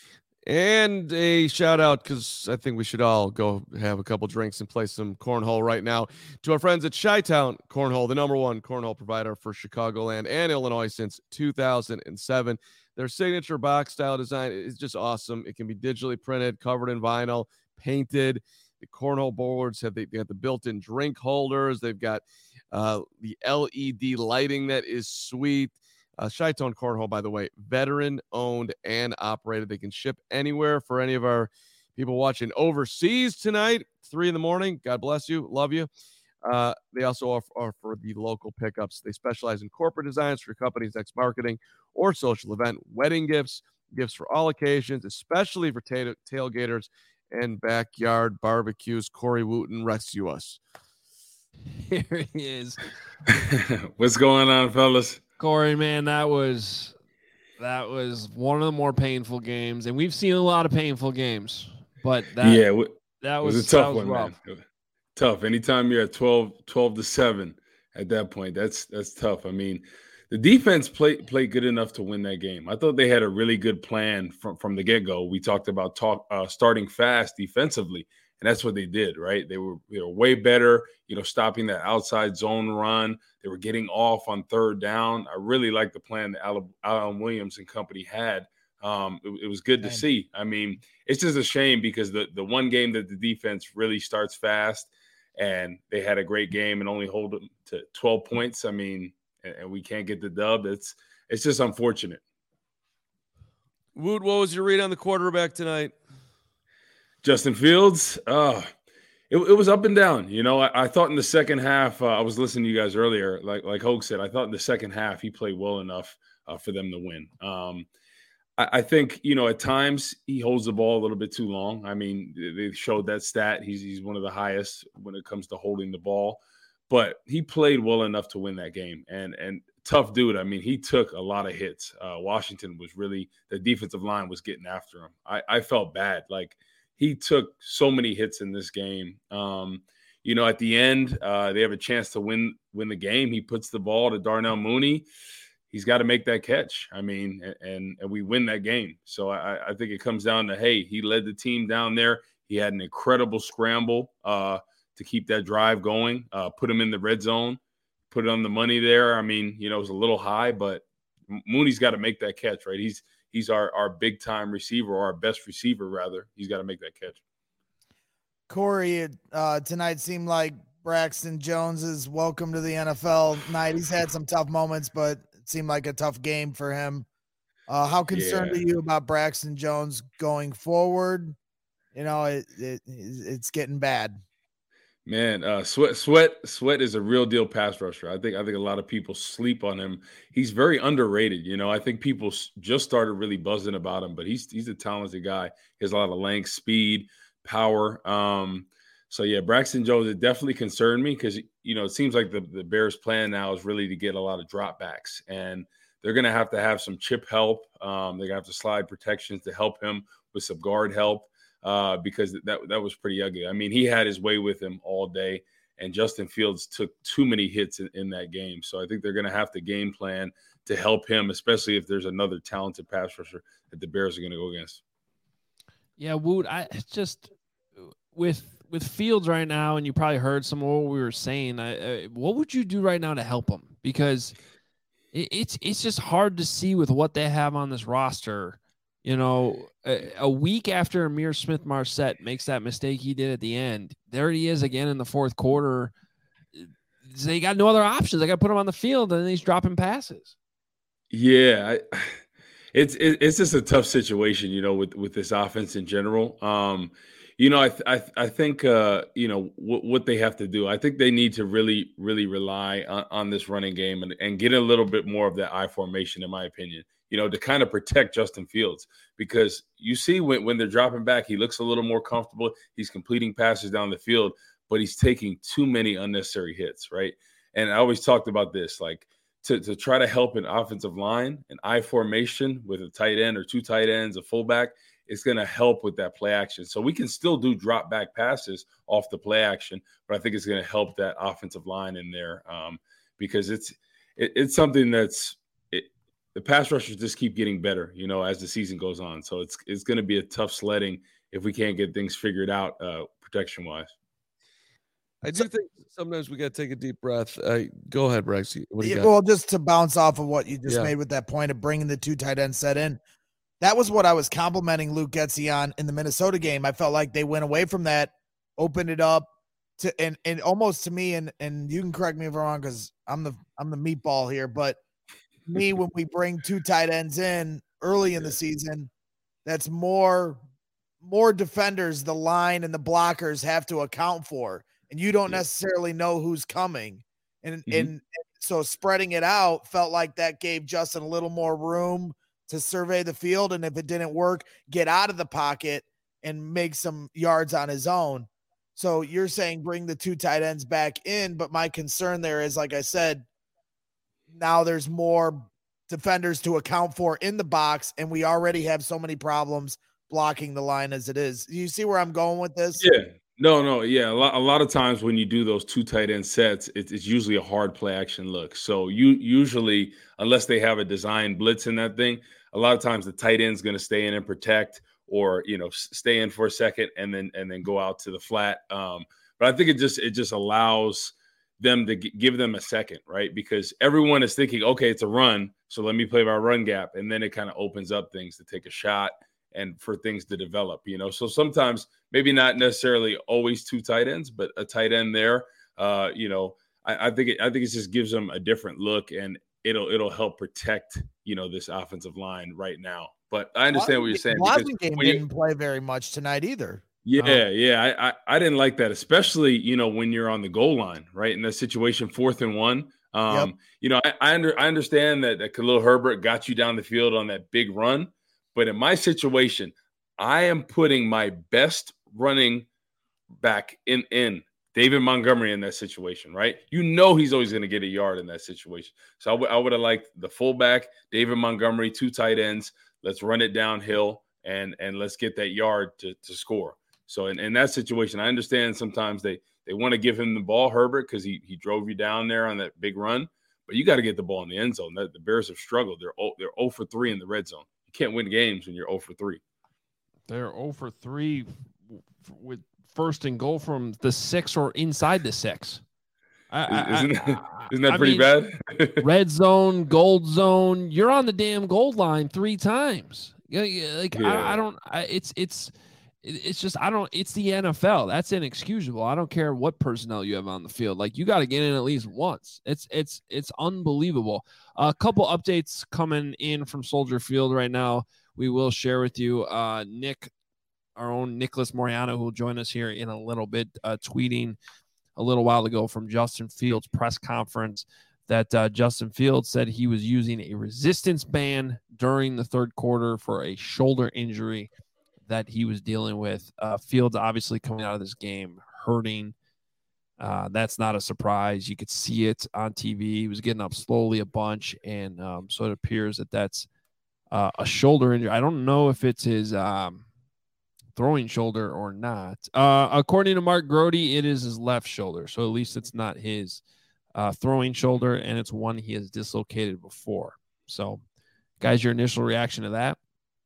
And a shout out, because I think we should all go have a couple drinks and play some cornhole right now, to our friends at Chi-Town Cornhole, the number one cornhole provider for Chicagoland and Illinois since two thousand seven. Their signature box style design is just awesome. It can be digitally printed, covered in vinyl, painted. The cornhole boards have they, they got the built-in drink holders. They've got uh, the L E D lighting that is sweet. Uh, Chi-Town Cornhole, by the way, veteran-owned and operated. They can ship anywhere for any of our people watching overseas tonight, three in the morning. God bless you. Love you. Uh, they also offer, offer the local pickups. They specialize in corporate designs for your company's next marketing or social event, wedding gifts, gifts for all occasions, especially for ta- tailgaters and backyard barbecues. Corey Wooten, rescue us. Here he is. What's going on, fellas? Corey, man, that was that was one of the more painful games, and we've seen a lot of painful games, but that yeah, w- that it was, was a tough that was one, rough. man. Tough. Anytime you're at twelve, twelve to seven at that point, that's that's tough. I mean, the defense played played good enough to win that game. I thought they had a really good plan from, from the get-go. We talked about talk uh, starting fast defensively, and that's what they did, right? They were they were way better, you know, stopping that outside zone run. They were getting off on third down. I really like the plan that Alan, Alan Williams and company had. Um, it, it was good to Man. see. I mean, it's just a shame because the the one game that the defense really starts fast, and they had a great game and only hold them to twelve points. I mean, and, and we can't get the dub. It's it's just unfortunate. Wood, what was your read on the quarterback tonight? Justin Fields, uh, it, it was up and down. You know, I, I thought in the second half, uh, I was listening to you guys earlier, like like Hoke said, I thought in the second half he played well enough uh, for them to win. Um, I, I think, you know, at times he holds the ball a little bit too long. I mean, they showed that stat. He's he's one of the highest when it comes to holding the ball. But he played well enough to win that game. And and tough dude. I mean, he took a lot of hits. Uh, Washington was really – the defensive line was getting after him. I, I felt bad. Like, he took so many hits in this game. Um, you know, at the end, uh, they have a chance to win win the game. He puts the ball to Darnell Mooney. He's got to make that catch. I mean, and and we win that game. So I, I think it comes down to, hey, he led the team down there. He had an incredible scramble uh, to keep that drive going, uh, put him in the red zone, put it on the money there. I mean, you know, it was a little high, but Mooney's got to make that catch, right? He's he's our our big time receiver, or our best receiver rather. He's got to make that catch. Corey, uh, tonight seemed like Braxton Jones's welcome to the N F L night. He's had some tough moments, but it seemed like a tough game for him. Uh, how concerned Yeah. are you about Braxton Jones going forward? You know, it, it it's getting bad. Man, uh, Sweat, Sweat, Sweat is a real deal pass rusher. I think, I think a lot of people sleep on him. He's very underrated. You know, I think people s- just started really buzzing about him, but he's he's a talented guy. He has a lot of length, speed, power. Um, so yeah, Braxton Jones, it definitely concerned me because you know it seems like the the Bears' plan now is really to get a lot of dropbacks, and they're going to have to have some chip help. Um, they're going to have to slide protections to help him with some guard help. Uh, because that that was pretty ugly. I mean, he had his way with him all day, and Justin Fields took too many hits in, in that game. So I think they're going to have to game plan to help him, especially if there's another talented pass rusher that the Bears are going to go against. Yeah, Woot, I just with with Fields right now, and you probably heard some of what we were saying. I, I, what would you do right now to help him? Because it, it's it's just hard to see with what they have on this roster. You know, a, a week after Amir Smith-Marset makes that mistake he did at the end, there he is again in the fourth quarter. They got no other options. They got to put him on the field, and then he's dropping passes. Yeah, I, it's it, it's just a tough situation, you know, with with this offense in general. Um, you know, I th- I, th- I think uh, you know what what they have to do. I think they need to really really rely on, on this running game and, and get a little bit more of that I formation, in my opinion. You know, to kind of protect Justin Fields, because you see when, when they're dropping back, he looks a little more comfortable. He's completing passes down the field, but he's taking too many unnecessary hits, right? And I always talked about this, like to, to try to help an offensive line, an I formation with a tight end or two tight ends, a fullback, it's going to help with that play action. So we can still do drop back passes off the play action, but I think it's going to help that offensive line in there um, because it's it, it's something that's it, the pass rushers just keep getting better, you know, as the season goes on. So it's it's going to be a tough sledding if we can't get things figured out uh, protection wise. I do think sometimes we got to take a deep breath. Uh, go ahead, Rex. What do you Yeah, got? well, just to bounce off of what you just Yeah. made with that point of bringing the two tight end set in, that was what I was complimenting Luke Getsy on in the Minnesota game. I felt like they went away from that, opened it up to, and and almost to me, and and you can correct me if I'm wrong because I'm the I'm the meatball here, but me when we bring two tight ends in early in the season, that's more more defenders the line and the blockers have to account for, and you don't Yeah. necessarily know who's coming, and Mhm. and. So spreading it out felt like that gave Justin a little more room to survey the field. And if it didn't work, get out of the pocket and make some yards on his own. So you're saying bring the two tight ends back in. But my concern there is, like I said, now there's more defenders to account for in the box. And we already have so many problems blocking the line as it is. You see where I'm going with this? Yeah. No, no, yeah. A lot, a lot of times when you do those two tight end sets, it, it's usually a hard play action look. So you usually, unless they have a design blitz in that thing, a lot of times the tight end's going to stay in and protect, or you know, s- stay in for a second and then and then go out to the flat. Um, but I think it just it just allows them to g- give them a second, right? Because everyone is thinking, okay, it's a run, so let me play my run gap, and then it kind of opens up things to take a shot and for things to develop, you know. So sometimes maybe not necessarily always two tight ends, but a tight end there, uh, you know, I, I think it, I think it just gives them a different look, and it'll it'll help protect, you know, this offensive line right now. But I understand what you're saying. because Blasingame when you- didn't play very much tonight either. yeah, yeah, I, I I didn't like that, especially you know when you're on the goal line, right? In that situation, fourth and one. Um, Yep. You know, I I, under, I understand that, that Khalil Herbert got you down the field on that big run, but in my situation, I am putting my best running back in in David Montgomery in that situation, right? You know he's always going to get a yard in that situation. So I would I would have liked the fullback, David Montgomery, two tight ends. Let's run it downhill and and let's get that yard to to score. So in, in that situation, I understand sometimes they they want to give him the ball, Herbert, because he he drove you down there on that big run. But you got to get the ball in the end zone. The, the Bears have struggled. They're oh, they're zero for three in the red zone. You can't win games when you're zero for three. They're zero for three with first and goal from the six or inside the six. I, I, isn't, I, isn't that I pretty mean, bad? red zone, gold zone. You're on the damn gold line three times. Yeah, yeah, like Yeah. I, I don't. I, it's it's it's just I don't. It's the N F L. That's inexcusable. I don't care what personnel you have on the field. Like you got to get in at least once. It's it's it's unbelievable. A couple updates coming in from Soldier Field right now. We will share with you. Uh, Nick, our own Nicholas Moriano, who will join us here in a little bit, uh, tweeting a little while ago from Justin Fields' press conference that uh, Justin Fields said he was using a resistance band during the third quarter for a shoulder injury that he was dealing with. Uh, Fields obviously coming out of this game hurting. Uh, that's not a surprise. You could see it on T V. He was getting up slowly a bunch, and um, so it appears that that's uh, a shoulder injury. I don't know if it's his um, throwing shoulder or not. Uh, according to Mark Grode, it is his left shoulder, so at least it's not his uh, throwing shoulder, and it's one he has dislocated before. So, guys, your initial reaction to that?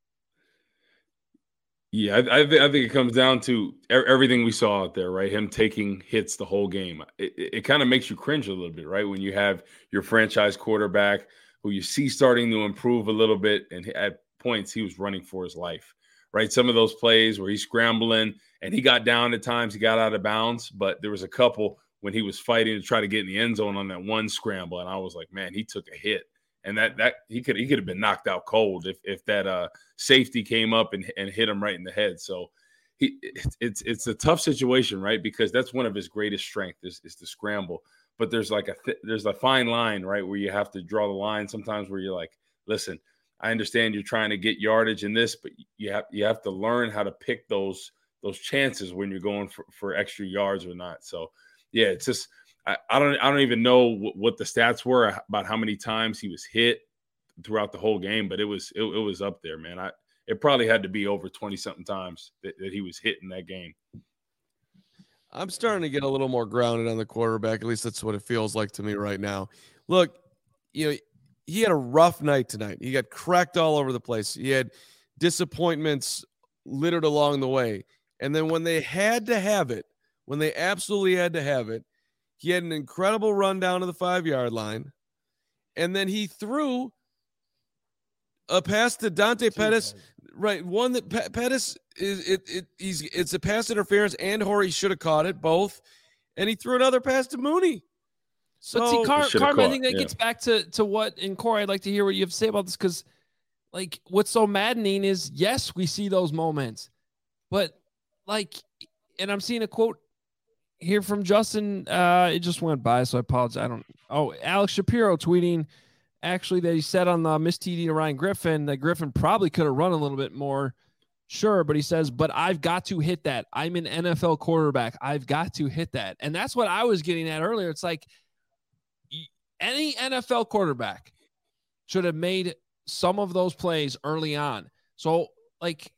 Yeah, I, I, th- I think it comes down to er- everything we saw out there, right? Him taking hits the whole game. It, it, it kind of makes you cringe a little bit, right? When you have your franchise quarterback who you see starting to improve a little bit, and at points he was running for his life, right? Some of those plays where he's scrambling and he got down at times, he got out of bounds, but there was a couple when he was fighting to try to get in the end zone on that one scramble, and I was like, man, he took a hit. And that that he could he could have been knocked out cold if if that uh, safety came up and, and hit him right in the head. So he it's it's a tough situation, right? Because that's one of his greatest strengths is, is the scramble. But there's like a th- there's a fine line, right, where you have to draw the line sometimes where you're like, listen, I understand you're trying to get yardage in this, but you have you have to learn how to pick those those chances when you're going for, for extra yards or not. So yeah, it's just. I, I don't I don't even know w- what the stats were about how many times he was hit throughout the whole game, but it was it, it was up there, man. I it probably had to be over twenty something times that, that he was hit in that game. I'm starting to get a little more grounded on the quarterback. At least that's what it feels like to me right now. Look, you know, he had a rough night tonight. He got cracked all over the place. He had disappointments littered along the way. And then when they had to have it, when they absolutely had to have it, he had an incredible run down to the five-yard line, and then he threw a pass to Dante Pettis, right? One that P- Pettis is it, it he's it's a pass interference, and Horry should have caught it both, and he threw another pass to Mooney. So, but see, Car- Carm, I think that yeah. gets back to to what, and Corey, I'd like to hear what you have to say about this, because like what's so maddening is, yes, we see those moments, but like, and I'm seeing a quote here from Justin. Uh, it just went by, so I apologize. I don't. Oh, Alex Shapiro tweeting actually that he said on the Miss T D to Ryan Griffin that Griffin probably could have run a little bit more. Sure, but he says, but I've got to hit that. I'm an N F L quarterback. I've got to hit that, and that's what I was getting at earlier. It's like any N F L quarterback should have made some of those plays early on. So, like.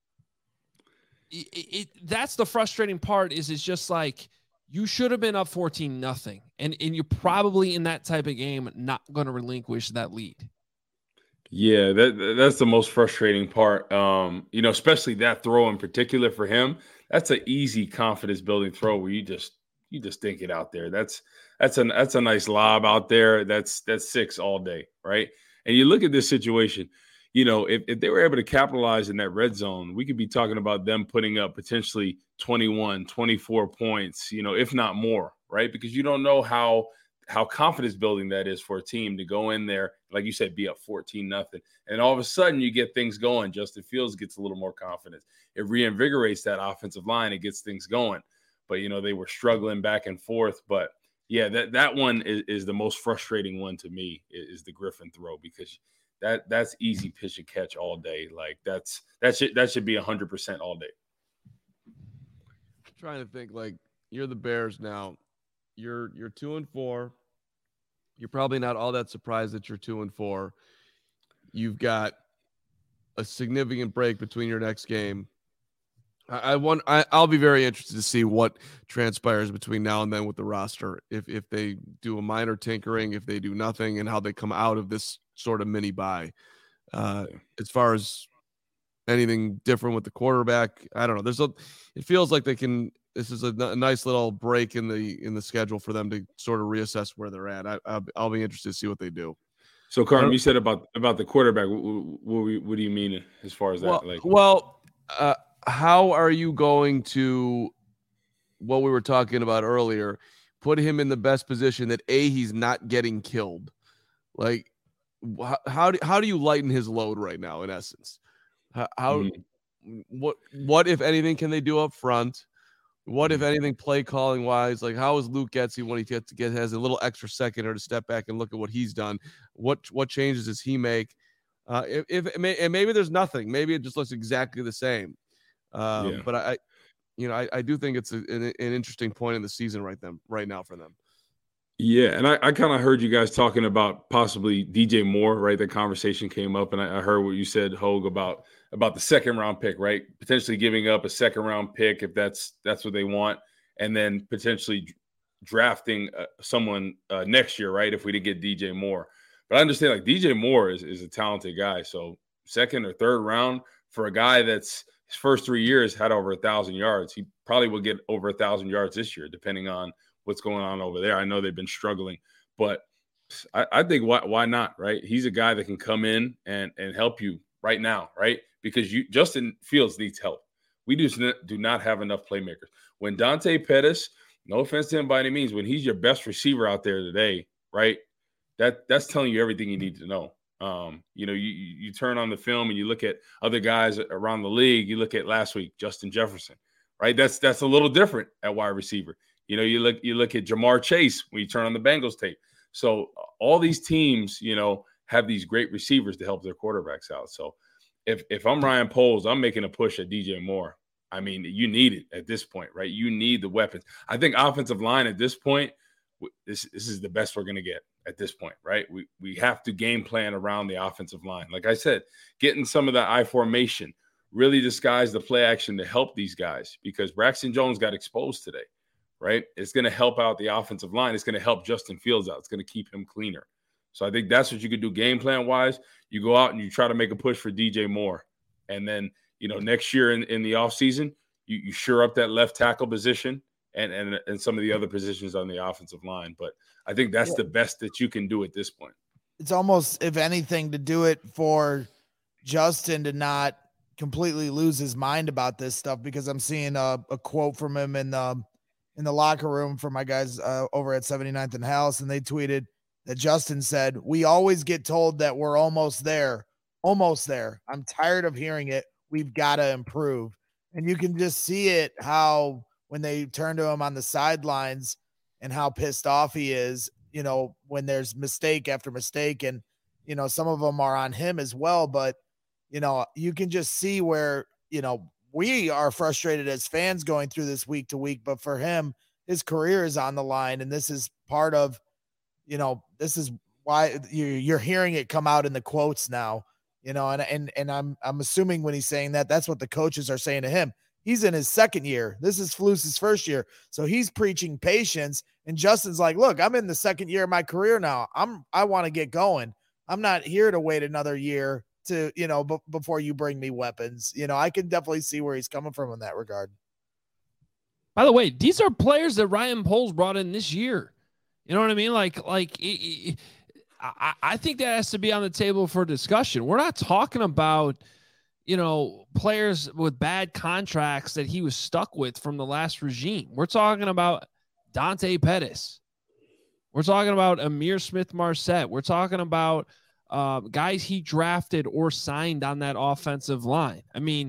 It, it that's the frustrating part. Is it's just like you should have been up fourteen nothing, and and you're probably in that type of game not going to relinquish that lead. Yeah, that that's the most frustrating part. Um, you know, especially that throw in particular for him. That's an easy confidence building throw where you just you just think it out there. That's that's a that's a nice lob out there. That's that's six all day, right? And you look at this situation. You know, if, if they were able to capitalize in that red zone, we could be talking about them putting up potentially twenty-one, twenty-four points, you know, if not more, right? Because you don't know how how confidence building that is for a team to go in there, like you said, be up fourteen nothing. And all of a sudden you get things going. Justin Fields gets a little more confidence. It reinvigorates that offensive line. It gets things going. But, you know, they were struggling back and forth. But, yeah, that, that one is, is the most frustrating one to me is, is the Griffin throw, because – That that's easy pitch and catch all day. Like that's that should that should be a hundred percent all day. I'm trying to think, like, you're the Bears now. You're you're two and four. You're probably not all that surprised that you're two and four. You've got a significant break between your next game. I, I want I, I'll be very interested to see what transpires between now and then with the roster. If if they do a minor tinkering, if they do nothing, and how they come out of this sort of mini bye. Uh, as far as anything different with the quarterback, I don't know. There's a, it feels like they can this is a, n- a nice little break in the in the schedule for them to sort of reassess where they're at. I, I'll, I'll be interested to see what they do. So, Carm, you said about about the quarterback. What, what, what do you mean as far as that? Well, like, well uh, how are you going to what we were talking about earlier? Put him in the best position that A, he's not getting killed. Like, how how do, how do you lighten his load right now? In essence, how, how mm-hmm. what what if anything can they do up front? What if anything play calling wise? Like, how is Luke Getsy when he gets to get has a little extra second or to step back and look at what he's done? What what changes does he make? Uh, if, if it may, and maybe there's nothing, maybe it just looks exactly the same. Um, yeah. But I, you know, I, I do think it's a, an, an interesting point in the season right them right now for them. Yeah, and I, I kind of heard you guys talking about possibly D J Moore, right? The conversation came up, and I, I heard what you said, Hogue, about about the second round pick, right? Potentially giving up a second round pick if that's that's what they want, and then potentially drafting uh, someone uh, next year, right? If we did get D J Moore, but I understand like D J Moore is is a talented guy, so second or third round for a guy that's his first three years had over a thousand yards, he probably will get over a thousand yards this year, depending on what's going on over there. I know they've been struggling, but I, I think why why not, right? He's a guy that can come in and and help you right now, right? Because you Justin Fields needs help. We do, do not have enough playmakers. When Dante Pettis, no offense to him by any means, when he's your best receiver out there today, right? That that's telling you everything you need to know. Um, you know, you you turn on the film and you look at other guys around the league. You look at last week, Justin Jefferson, right? That's that's a little different at wide receiver. You know, you look you look at Jamar Chase when you turn on the Bengals tape. So all these teams, you know, have these great receivers to help their quarterbacks out. So if if I'm Ryan Poles, I'm making a push at D J Moore. I mean, you need it at this point, right? You need the weapons. I think offensive line at this point, this this is the best we're going to get at this point, right? We we have to game plan around the offensive line. Like I said, getting some of that I formation, really disguise the play action to help these guys, because Braxton Jones got exposed today. Right? It's going to help out the offensive line. It's going to help Justin Fields out. It's going to keep him cleaner. So I think that's what you could do game plan wise. You go out and you try to make a push for D J Moore. And then, you know, next year in, in the offseason, you, you shore up that left tackle position and, and, and some of the other positions on the offensive line. But I think that's yeah. the best that you can do at this point. It's almost, if anything, to do it for Justin to not completely lose his mind about this stuff, because I'm seeing a, a quote from him in the in the locker room for my guys uh, over at seventy-ninth and House. And they tweeted that Justin said, "We always get told that we're almost there, almost there. I'm tired of hearing it. We've got to improve." And you can just see it, how when they turn to him on the sidelines and how pissed off he is, you know, when there's mistake after mistake. And, you know, some of them are on him as well, but, you know, you can just see where, you know, we are frustrated as fans going through this week to week, but for him, his career is on the line. And this is part of, you know, this is why you're hearing it come out in the quotes now, you know, and, and, and I'm, I'm assuming when he's saying that, that's what the coaches are saying to him. He's in his second year. This is Flus's first year. So he's preaching patience. And Justin's like, look, I'm in the second year of my career now. I'm, I want to get going. I'm not here to wait another year to, you know, b- before you bring me weapons. You know, I can definitely see where he's coming from in that regard. By the way, these are players that Ryan Poles brought in this year. You know what I mean? Like, like it, it, I, I think that has to be on the table for discussion. We're not talking about, you know, players with bad contracts that he was stuck with from the last regime. We're talking about Dante Pettis. We're talking about Amir Smith-Marset. We're talking about uh, guys he drafted or signed on that offensive line. I mean,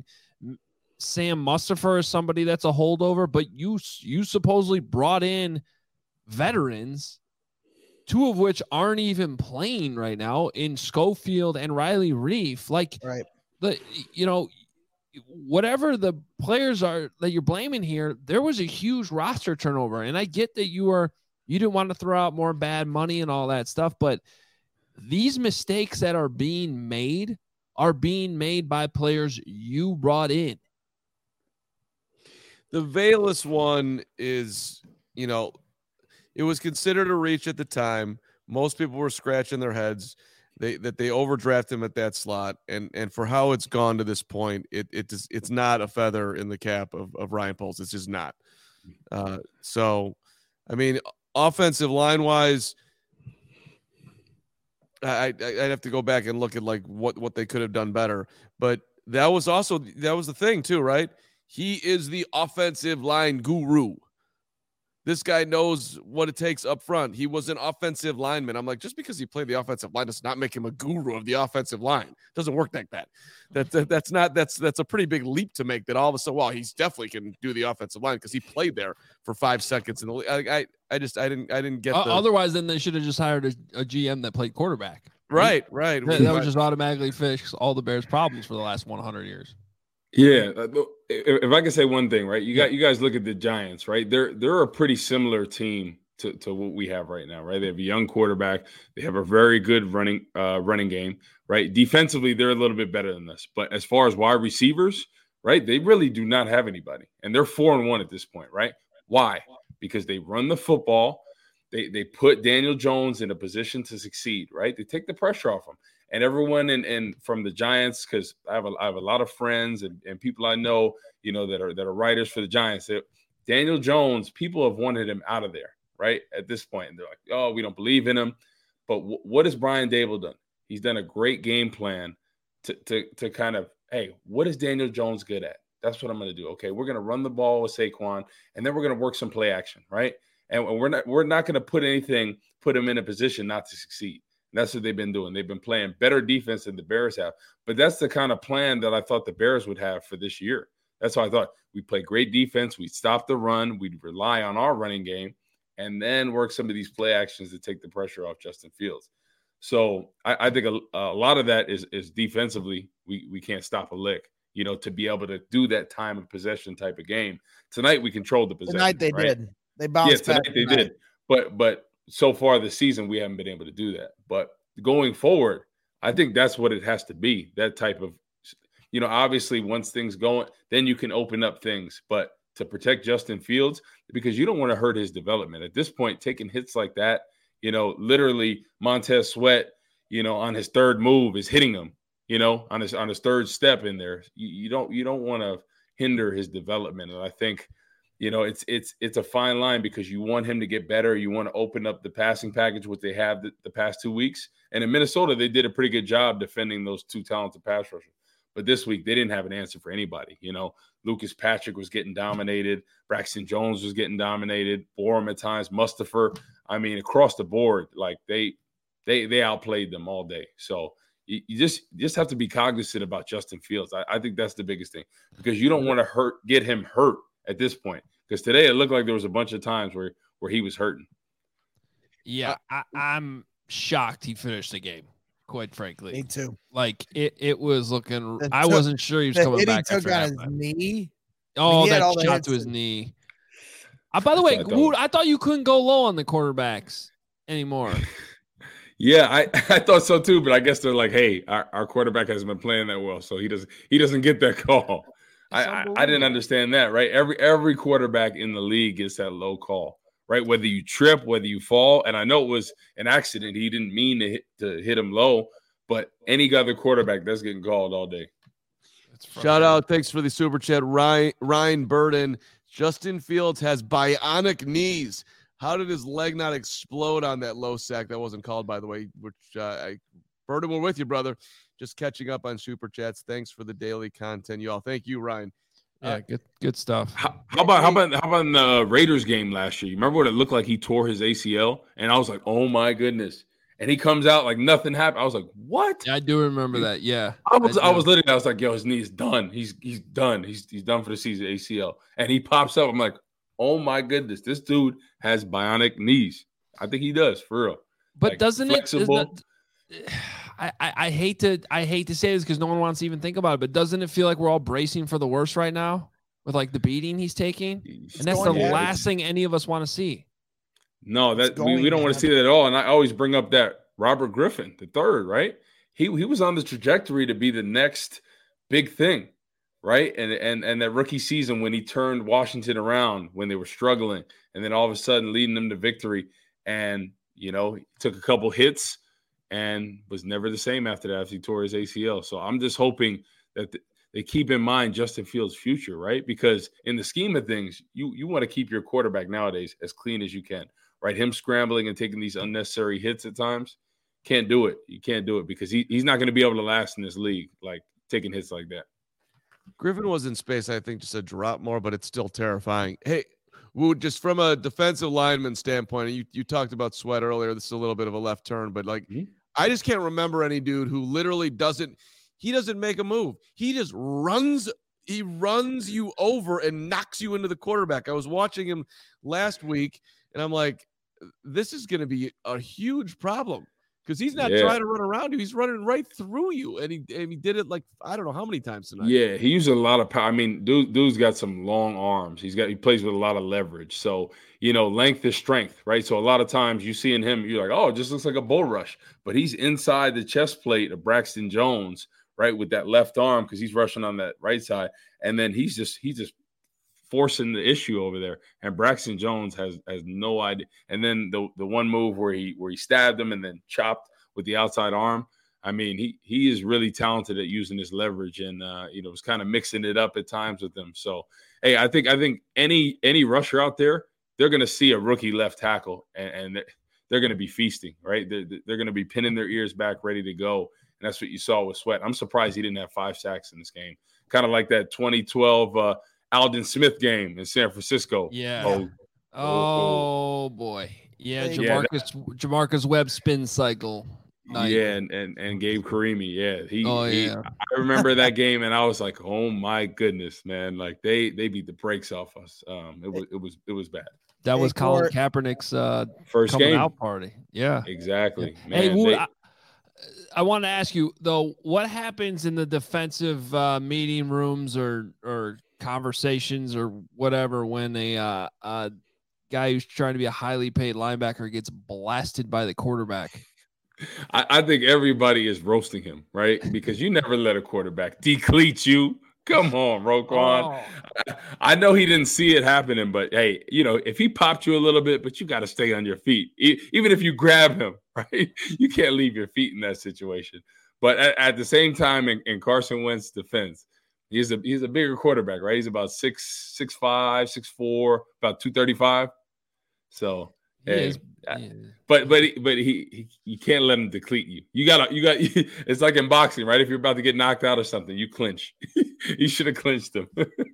Sam Mustipher is somebody that's a holdover, but you you supposedly brought in veterans, two of which aren't even playing right now, in Schofield and Riley Reef. Like, right. the you know, whatever the players are that you're blaming here, there was a huge roster turnover, and I get that you are you didn't want to throw out more bad money and all that stuff, but these mistakes that are being made are being made by players you brought in. The Velus one is, you know, it was considered a reach at the time. Most people were scratching their heads they, that they overdraft him at that slot. And and for how it's gone to this point, it it just, it's not a feather in the cap of, of Ryan Poles. It's just not. Uh, so, I mean, offensive line wise, I, I I'd have to go back and look at like what what they could have done better. But that was also that was the thing too, right? He is the offensive line guru. This guy knows what it takes up front. He was an offensive lineman. I'm like, just because he played the offensive line does not make him a guru of the offensive line. It doesn't work like that. That, that that's not that's that's a pretty big leap to make. That all of a sudden, well, he's definitely can do the offensive line because he played there for five seconds. In the I I, I just I didn't I didn't get. Uh, the, otherwise, then they should have just hired a, a G M that played quarterback. Right, right. That, that would just automatically fix all the Bears' problems for the last one hundred years. Yeah, if, if I can say one thing, right? You got you guys look at the Giants, right? They're they're a pretty similar team to, to what we have right now, right? They have a young quarterback, they have a very good running uh, running game, right? Defensively, they're a little bit better than us, but as far as wide receivers, right? They really do not have anybody, and they're four and one at this point, right? Why? Because they run the football, they they put Daniel Jones in a position to succeed, right? They take the pressure off him. And everyone in, in from the Giants, because I have a I have a lot of friends and, and people I know, you know, that are that are writers for the Giants. That Daniel Jones, people have wanted him out of there, right? At this point, and they're like, oh, we don't believe in him. But w- what has Brian Daboll done? He's done a great game plan to to to kind of, hey, what is Daniel Jones good at? That's what I'm going to do. Okay, we're going to run the ball with Saquon, and then we're going to work some play action, right? And we're not we're not going to put anything put him in a position not to succeed. That's what they've been doing. They've been playing better defense than the Bears have. But that's the kind of plan that I thought the Bears would have for this year. That's why I thought we'd play great defense. We'd stop the run. We'd rely on our running game and then work some of these play actions to take the pressure off Justin Fields. So I, I think a, a lot of that is, is defensively. We, we can't stop a lick, you know, to be able to do that time of possession type of game. Tonight we controlled the possession. Tonight they right? did. They bounced yeah, back. Tonight they tonight. did. But but so far this season, we haven't been able to do that. But going forward, I think that's what it has to be, that type of, you know, obviously once things go, then you can open up things. But to protect Justin Fields, because you don't want to hurt his development. At this point, taking hits like that, you know, literally Montez Sweat, you know, on his third move is hitting him, you know, on his on his third step in there. You, you don't you don't want to hinder his development. And I think, you know, it's it's it's a fine line because you want him to get better. You want to open up the passing package, which they have the, the past two weeks. And in Minnesota, they did a pretty good job defending those two talented pass rushers. But this week, they didn't have an answer for anybody. You know, Lucas Patrick was getting dominated. Braxton Jones was getting dominated. Borum at times. Mustafa. I mean, across the board, like they they they outplayed them all day. So you, you just you just have to be cognizant about Justin Fields. I, I think that's the biggest thing because you don't want to hurt get him hurt at this point. Because today it looked like there was a bunch of times where where he was hurting. Yeah, I, I'm shocked he finished the game. Quite frankly, Me too. Like it, it was looking. The I took- wasn't sure he was The coming hit he back took after on his halftime. knee. Oh, he had all that the shot hits to his and- knee. Uh, by the way, I thought- Wood, I thought you couldn't go low on the quarterbacks anymore. Yeah, I, I thought so too, but I guess they're like, hey, our, our quarterback hasn't been playing that well, so he doesn't he doesn't get that call. I, I, I didn't understand that, right? Every every quarterback in the league gets that low call, right? Whether you trip, whether you fall, and I know it was an accident. He didn't mean to hit, to hit him low, but any other quarterback that's getting called all day. Shout out. Thanks for the super chat. Ryan, Ryan Burden. Justin Fields has bionic knees. How did his leg not explode on that low sack? That wasn't called, by the way, which uh, I, Burden, we're with you, brother. Just catching up on super chats. Thanks for the daily content, y'all. Thank you, Ryan. Yeah, good good stuff. How, how about how about how about in the Raiders game last year? You remember what it looked like? He tore his A C L, and I was like, "Oh my goodness!" And he comes out like nothing happened. I was like, "What?" Yeah, I do remember that. Yeah, I was I, do. was literally I was like, "Yo, his knee is done. He's he's done. He's he's done for the season, A C L." And he pops up. I'm like, "Oh my goodness, this dude has bionic knees." I think he does for real. But Like, doesn't flexible. it? Isn't it I, I I hate to I hate to say this because no one wants to even think about it. But doesn't it feel like we're all bracing for the worst right now with like the beating he's taking? He's And that's the going to last thing any of us want to see. No, It's that we, we going don't to want to see that at all. And I always bring up that Robert Griffin, the third, right? He he was on the trajectory to be the next big thing, right? And and and that rookie season when he turned Washington around when they were struggling, and then all of a sudden leading them to victory. And you know, he took a couple hits and was never the same after that after he tore his A C L. So I'm just hoping that the, they keep in mind Justin Fields' future, right? Because in the scheme of things, you you want to keep your quarterback nowadays as clean as you can, right? Him scrambling and taking these unnecessary hits at times, can't do it. You can't do it because he, he's not going to be able to last in this league, like taking hits like that. Griffin was in space, I think, just a drop more, but it's still terrifying. Hey, Wood, just from a defensive lineman standpoint, you, you talked about Sweat earlier. This is a little bit of a left turn, but like, mm-hmm. I just can't remember any dude who literally doesn't, he doesn't make a move. He just runs, he runs you over and knocks you into the quarterback. I was watching him last week, and I'm like, this is going to be a huge problem. Because he's not yeah. trying to run around you. He's running right through you. And he and he did it like, I don't know how many times tonight. Yeah, he uses a lot of power. I mean, dude, dude's got some long arms. He's got he plays with a lot of leverage. So, you know, length is strength, right? So a lot of times you see in him, you're like, oh, it just looks like a bull rush. But he's inside the chest plate of Braxton Jones, right, with that left arm because he's rushing on that right side. And then he's just he's just forcing the issue over there, and Braxton Jones has has no idea. And then the the one move where he where he stabbed him and then chopped with the outside arm. I mean, he he is really talented at using his leverage, and uh, you know, was kind of mixing it up at times with them. So, hey, I think I think any any rusher out there, they're going to see a rookie left tackle, and, and they're, they're going to be feasting, right? They're, they're going to be pinning their ears back, ready to go. And that's what you saw with Sweat. I'm surprised he didn't have five sacks in this game. Kind of like that twenty twelve uh, Aldon Smith game in San Francisco. Yeah. Oh, oh, oh boy. Yeah, Jamarcus yeah, Jamarcus Webb spin cycle. Night. Yeah, and, and and Gabe Karimi. Yeah. He, oh, he yeah. I remember that game, and I was like, oh my goodness, man. Like they they beat the brakes off us. Um, it was it was it was bad. That was Colin Kaepernick's uh first coming game out party. Yeah. Exactly. Yeah. Man, hey, Wood, they, I, I want to ask you though, what happens in the defensive uh, meeting rooms or or conversations or whatever when a uh, uh, guy who's trying to be a highly paid linebacker gets blasted by the quarterback? I, I think everybody is roasting him, right? Because you never let a quarterback decleat you. Come on, Roquan. Oh. I, I know he didn't see it happening, but hey, you know, if he popped you a little bit, but you got to stay on your feet. E- even if you grab him, right? You can't leave your feet in that situation. But at, at the same time, in, in Carson Wentz's defense, he's a he's a bigger quarterback, right? He's about six, six, five, six, four, about two thirty-five. So hey, is, yeah. but but he, but he, he you can't let him deplete you. You gotta you got it's like in boxing, right? If you're about to get knocked out or something, you clinch. You should have clinched him.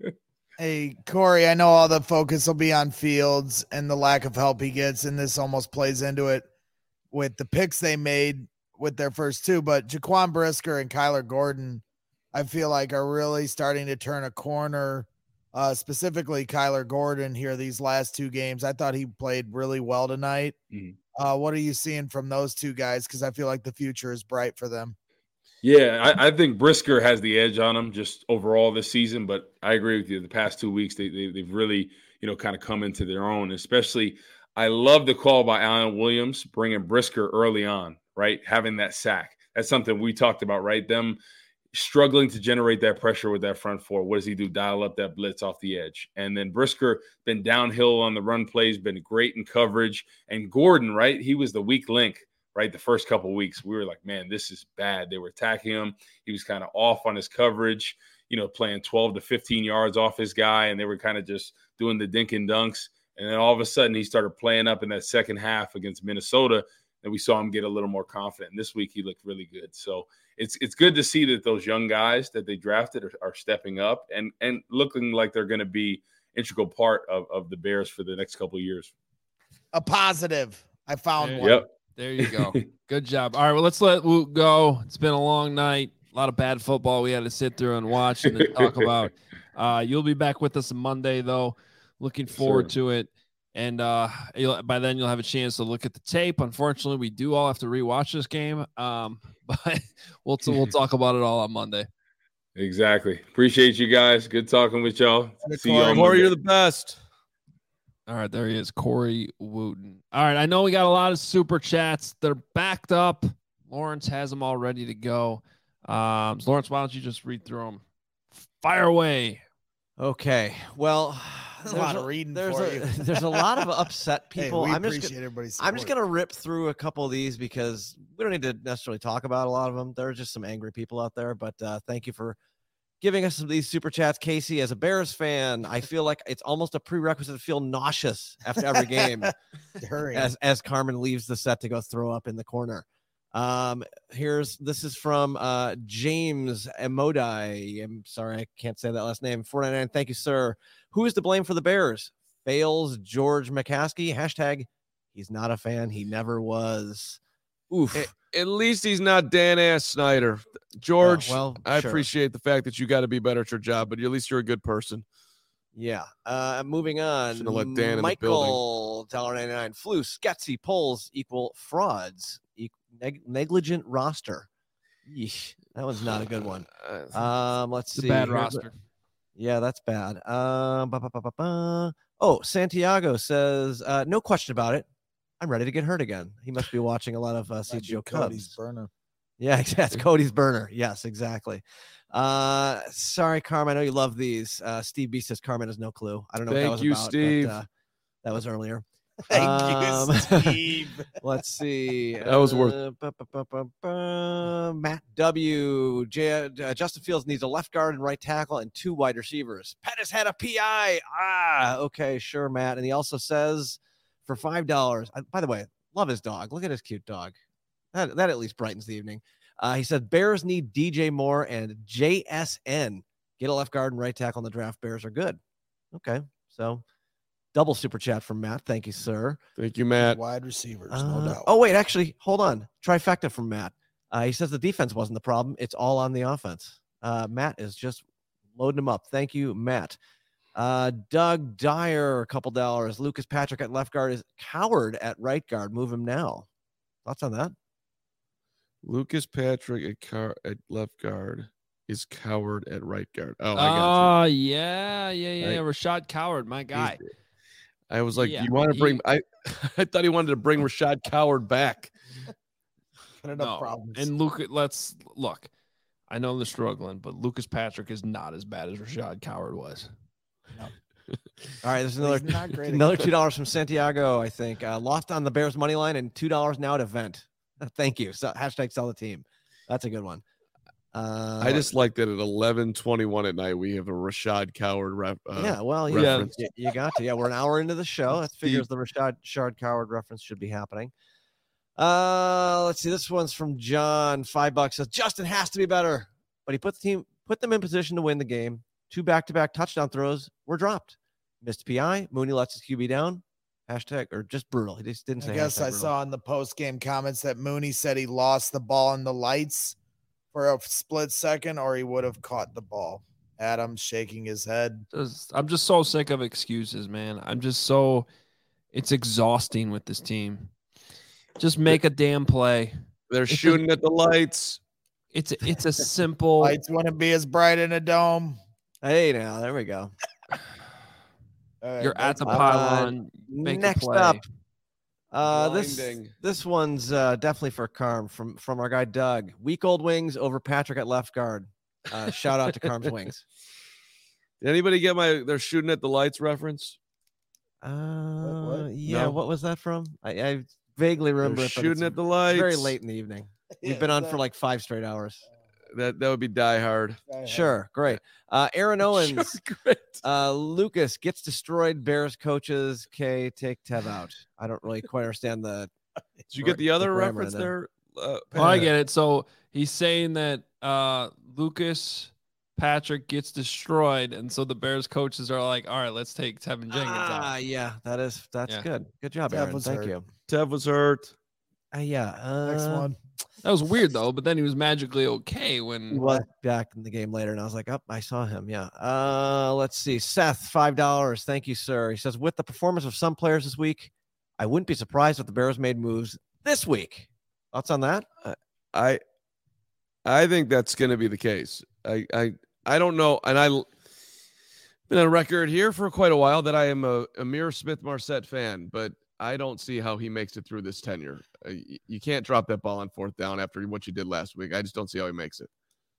Hey, Corey, I know all the focus will be on Fields and the lack of help he gets, and this almost plays into it with the picks they made with their first two. But Jaquan Brisker and Kyler Gordon, I feel like, are really starting to turn a corner, uh, specifically Kyler Gordon here these last two games. I thought he played really well tonight. Mm-hmm. Uh, what are you seeing from those two guys? Because I feel like the future is bright for them. Yeah, I, I think Brisker has the edge on him just overall this season, but I agree with you. The past two weeks, they, they, they've really, you know, kind of come into their own, especially I love the call by Alan Williams, bringing Brisker early on, right? Having that sack. That's something we talked about, right? Them struggling to generate that pressure with that front four. What does he do? Dial up that blitz off the edge. And then Brisker been downhill on the run plays, been great in coverage. And Gordon, right? He was the weak link. Right, the first couple of weeks, we were like, man, this is bad. They were attacking him. He was kind of off on his coverage, you know, playing twelve to fifteen yards off his guy, and they were kind of just doing the dink and dunks. And then all of a sudden, he started playing up in that second half against Minnesota, and we saw him get a little more confident. And this week, he looked really good. So it's it's good to see that those young guys that they drafted are, are stepping up and and looking like they're going to be integral part of, of the Bears for the next couple of years. A positive. I found yeah. one. Yep. There you go. Good job. All right, well, let's let Woot go. It's been a long night. A lot of bad football we had to sit through and watch and then talk about. Uh, you'll be back with us on Monday, though. Looking forward sure. to it. And uh, you'll, by then, you'll have a chance to look at the tape. Unfortunately, we do all have to rewatch this game, um, but we'll t- we'll talk about it all on Monday. Exactly. Appreciate you guys. Good talking with y'all. See you on Corey, you're the best. All right, there he is, Corey Wooten. All right, I know we got a lot of super chats. They're backed up. Lawrence has them all ready to go. Um, so Lawrence, why don't you just read through them? Fire away. Okay. Well, there's a lot of reading there's for a, you. There's a lot of upset people. Hey, we I'm appreciate just gonna, everybody's I'm just support. gonna rip through a couple of these because we don't need to necessarily talk about a lot of them. There are just some angry people out there, but uh, thank you for giving us these super chats. Casey, as a Bears fan, I feel like it's almost a prerequisite to feel nauseous after every game Hurry. as, as Carmen leaves the set to go throw up in the corner. Um, here's, this is from uh, James Emodai. I'm sorry, I can't say that last name. four ninety-nine. Thank you, sir. Who is to blame for the Bears? Fails George McCaskey. Hashtag, he's not a fan. He never was. Oof. At, at least he's not Dan Ass Snyder. George, Oh, well, I sure. appreciate the fact that you got to be better at your job, but at least you're a good person. Yeah. Uh, moving on. Shouldn't have let Dan in the Michael, one dollar ninety-nine. Flu, Sketsy, polls equal frauds. E- neg- negligent roster. Yeesh, that one's not a good one. Um, let's It's see. a bad Here's a- roster. yeah, that's bad. Um, ba, ba, ba, ba, ba. Oh, Santiago says, uh, no question about it. I'm ready to get hurt again. He must be watching a lot of uh, C G O Cody's Cubs. burner. Yeah, exactly. Cody's burner. Yes, exactly. Uh, sorry, Carmen. I know you love these. Uh, Steve B says Carmen has no clue. I don't know Thank what that was you, about. Steve. But, uh, that was earlier. Thank Um, you, Steve. Let's see. That was worth- Uh, ba, ba, ba, ba, ba. Matt W. J- uh, Justin Fields needs a left guard and right tackle and two wide receivers. Pettis had a P I. Ah, okay, sure, Matt. And he also says for five dollars. Uh, by the way, love his dog. Look at his cute dog. That, that at least brightens the evening. Uh, he said Bears need D J Moore and J S N. Get a left guard and right tackle in the draft. Bears are good. Okay, so double super chat from Matt. Thank you, sir. Thank you, Matt. Wide receivers, no Uh, doubt. oh, wait, actually, hold on. Trifecta from Matt. Uh, he says the defense wasn't the problem. It's all on the offense. Uh, Matt is just loading them up. Thank you, Matt. Uh, Doug Dyer, a couple dollars. Lucas Patrick at left guard is Coward at right guard. Move him now. Thoughts on that? Lucas Patrick at, car- at left guard is Coward at right guard. Oh, I Oh, got yeah, yeah, yeah. Right. Rashad Coward, my you. guy. I was like, Yeah, you want to he- bring? I I thought he wanted to bring Rashad Coward back. Got enough No. problems. And Luke, let's look. I know they're struggling, but Lucas Patrick is not as bad as Rashad Coward was. All right, there's He's another not great at another cooking. two dollars from Santiago, I think. Uh, lost on the Bears money line and two dollars now at event. Thank you. So hashtag sell the team. That's a good one. Uh, I just like that at eleven twenty-one at night we have a Rashad Coward rep. Uh, yeah, well, you, reference. you, you got to. Yeah, we're an hour into the show. That figures the Rashad Shard Coward reference should be happening. Uh, let's see. This one's from John. Five bucks says Justin has to be better, but he put the team put them in position to win the game. Two back-to-back touchdown throws were dropped. Missed P I. Mooney lets his Q B down. Hashtag or just brutal. He just didn't say. I guess hashtag I brutal. saw in the post game comments that Mooney said he lost the ball in the lights for a split second, or he would have caught the ball. Adam's shaking his head. Just- I'm just so sick of excuses, man. I'm just so it's exhausting with this team. Just make a damn play. They're It's a- shooting at the lights. It's a, it's a simple. Lights wouldn't be as bright in a dome. Hey, now there we go. All right, You're at the that's- pylon. Make a Next play. up, uh, this Blinding. this one's uh, definitely for Carm from from our guy Doug. Weak old wings over Patrick at left guard. Uh, shout out to Carm's wings. Did anybody get my they're shooting at the lights reference? Uh, what? yeah, No. what was that from? I, I vaguely remember They're it. But shooting it's at the lights. very late in the evening. We've Yeah, been on that- for like five straight hours. That that would be Die Hard. Sure, great. Uh, Aaron Owens, Sure, great. uh, Lucas gets destroyed. Bears coaches. K take Tev out. I don't really quite understand the. Did you get the other grammar reference in there? Uh, Oh, I get it. So he's saying that uh, Lucas Patrick gets destroyed, and so the Bears coaches are like, "All right, let's take Tevin Jenkins Ah, out." yeah, that is that's Yeah. good. Good job, Tev Aaron. was Thank hurt. you. Tev was hurt. Uh, yeah. Uh, Next one. That was weird though. But then he was magically okay He when was back in the game later, and I was like, "Oh, I saw him." Yeah. Uh, let's see. Seth, five dollars. Thank you, sir. He says, with the performance of some players this week, I wouldn't be surprised if the Bears made moves this week. Thoughts on that? I I think that's going to be the case. I I I don't know, and I been on record here for quite a while that I am a Amir Smith Marset fan, but I don't see how he makes it through this tenure. Uh, y- you can't drop that ball on fourth down after what you did last week. I just don't see how he makes it.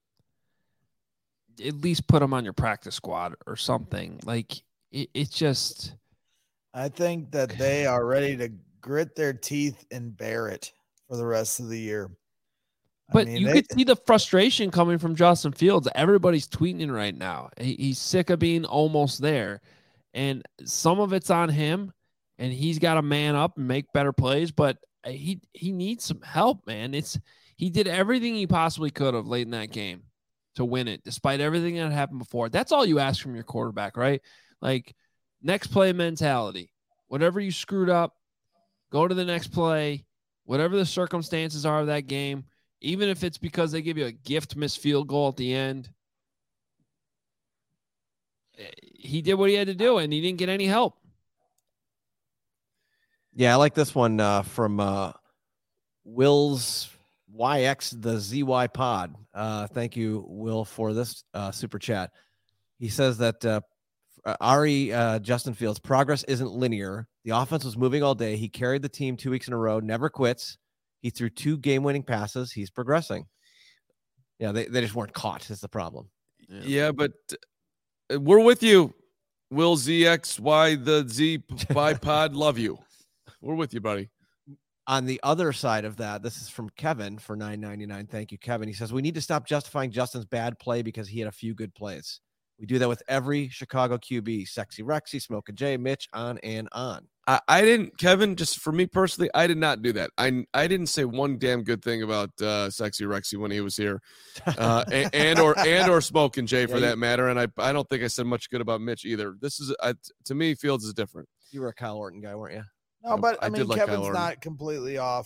at least put him on your practice squad or something. Like it, it just I think that they are ready to grit their teeth and bear it for the rest of the year. But I mean, you they, could see the frustration coming from Justin Fields. Everybody's tweeting right now. He, he's sick of being almost there. And some of it's on him, and he's got to man up and make better plays, but he he needs some help, man. It's he did everything he possibly could have late in that game to win it, despite everything that happened before. That's all you ask from your quarterback, right? Like, next play mentality. Whatever you screwed up, go to the next play. Whatever the circumstances are of that game, even if it's because they give you a gift missed field goal at the end, he did what he had to do, and he didn't get any help. Yeah, I like this one uh, from uh, Will's Y X, the Z Y pod. Uh, thank you, Will, for this uh, super chat. He says that uh, Ari uh, Justin Fields' progress isn't linear. The offense was moving all day. He carried the team two weeks in a row, never quits. He threw two game-winning passes. He's progressing. Yeah, they, they just weren't caught is the problem. Yeah, yeah but uh, we're with you. Will Z X Y the Z bipod love you. We're with you, buddy. On the other side of that, this is from Kevin for nine ninety-nine. Thank you, Kevin. He says, we need to stop justifying Justin's bad play because he had a few good plays. We do that with every Chicago Q B, Sexy Rexy, Smoke and Jay, Mitch, on and on. I, I didn't, Kevin, just for me personally, I did not do that. I I didn't say one damn good thing about uh, Sexy Rexy when he was here, uh, and, and or and or Smoke and Jay for yeah, that you, matter. And I I don't think I said much good about Mitch either. This is I, to me, Fields is different. You were a Kyle Orton guy, weren't you? No, but I, I mean, like Kevin's not completely off.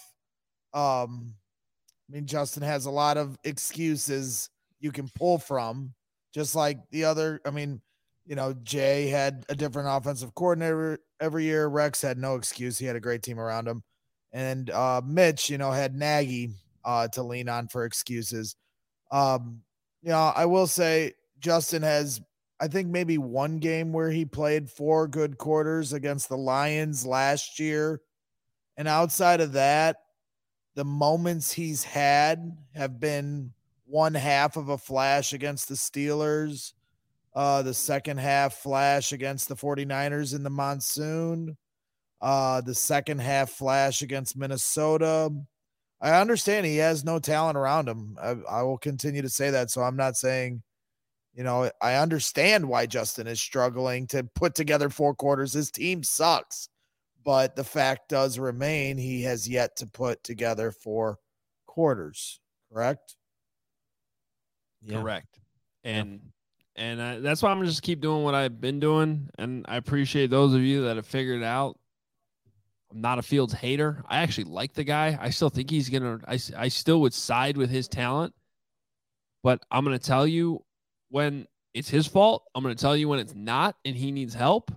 Um, I mean, Justin has a lot of excuses you can pull from, just like the other. I mean, you know, Jay had a different offensive coordinator every year. Rex had no excuse. He had a great team around him. And uh, Mitch, you know, had Nagy uh, to lean on for excuses. Um, you know, I will say Justin has, I think, maybe one game where he played four good quarters against the Lions last year. And outside of that, the moments he's had have been one half of a flash against the Steelers, uh, the second half flash against the 49ers in the monsoon, uh, the second half flash against Minnesota. I understand he has no talent around him. I, I will continue to say that. So I'm not saying, you know, I understand why Justin is struggling to put together four quarters. His team sucks, but the fact does remain he has yet to put together four quarters. Correct? Yeah. Correct. And yeah. and I, that's why I'm gonna just keep doing what I've been doing. And I appreciate those of you that have figured it out. I'm not a Fields hater. I actually like the guy. I still think he's gonna. I I still would side with his talent, but I'm gonna tell you when it's his fault. I'm gonna tell you when it's not, and he needs help.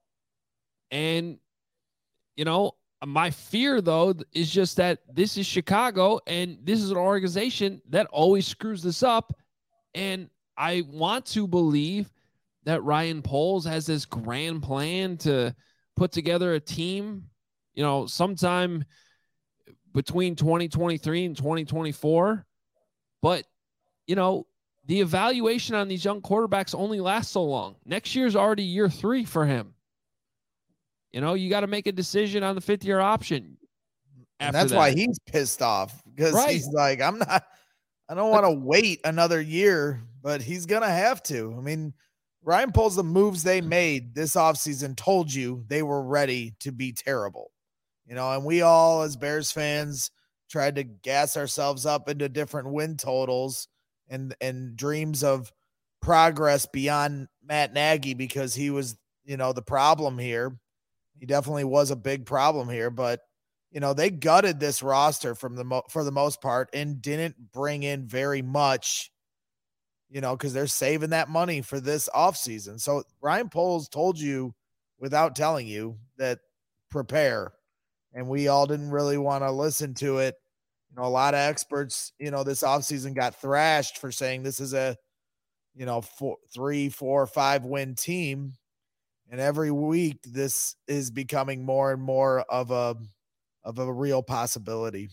And you know, my fear though is just that this is Chicago, and this is an organization that always screws this up. And I want to believe that Ryan Poles has this grand plan to put together a team, you know, sometime between twenty twenty-three and twenty twenty-four. But, you know, the evaluation on these young quarterbacks only lasts so long. Next year's already year three for him. You know, you got to make a decision on the fifth year option. And that's that. why he's pissed off, because right. he's like, I'm not, I don't want to wait another year, but he's going to have to. I mean, Ryan Poles, the moves they made this offseason told you they were ready to be terrible, you know, and we all as Bears fans tried to gas ourselves up into different win totals and, and dreams of progress beyond Matt Nagy, because he was, you know, the problem here. He definitely was a big problem here, but you know, they gutted this roster from the mo- for the most part and didn't bring in very much, you know, because they're saving that money for this offseason. So Ryan Poles told you without telling you that prepare, and we all didn't really want to listen to it. You know, a lot of experts, you know, this offseason got thrashed for saying this is a, you know, four, three, four, five win team. And every week this is becoming more and more of a, of a real possibility.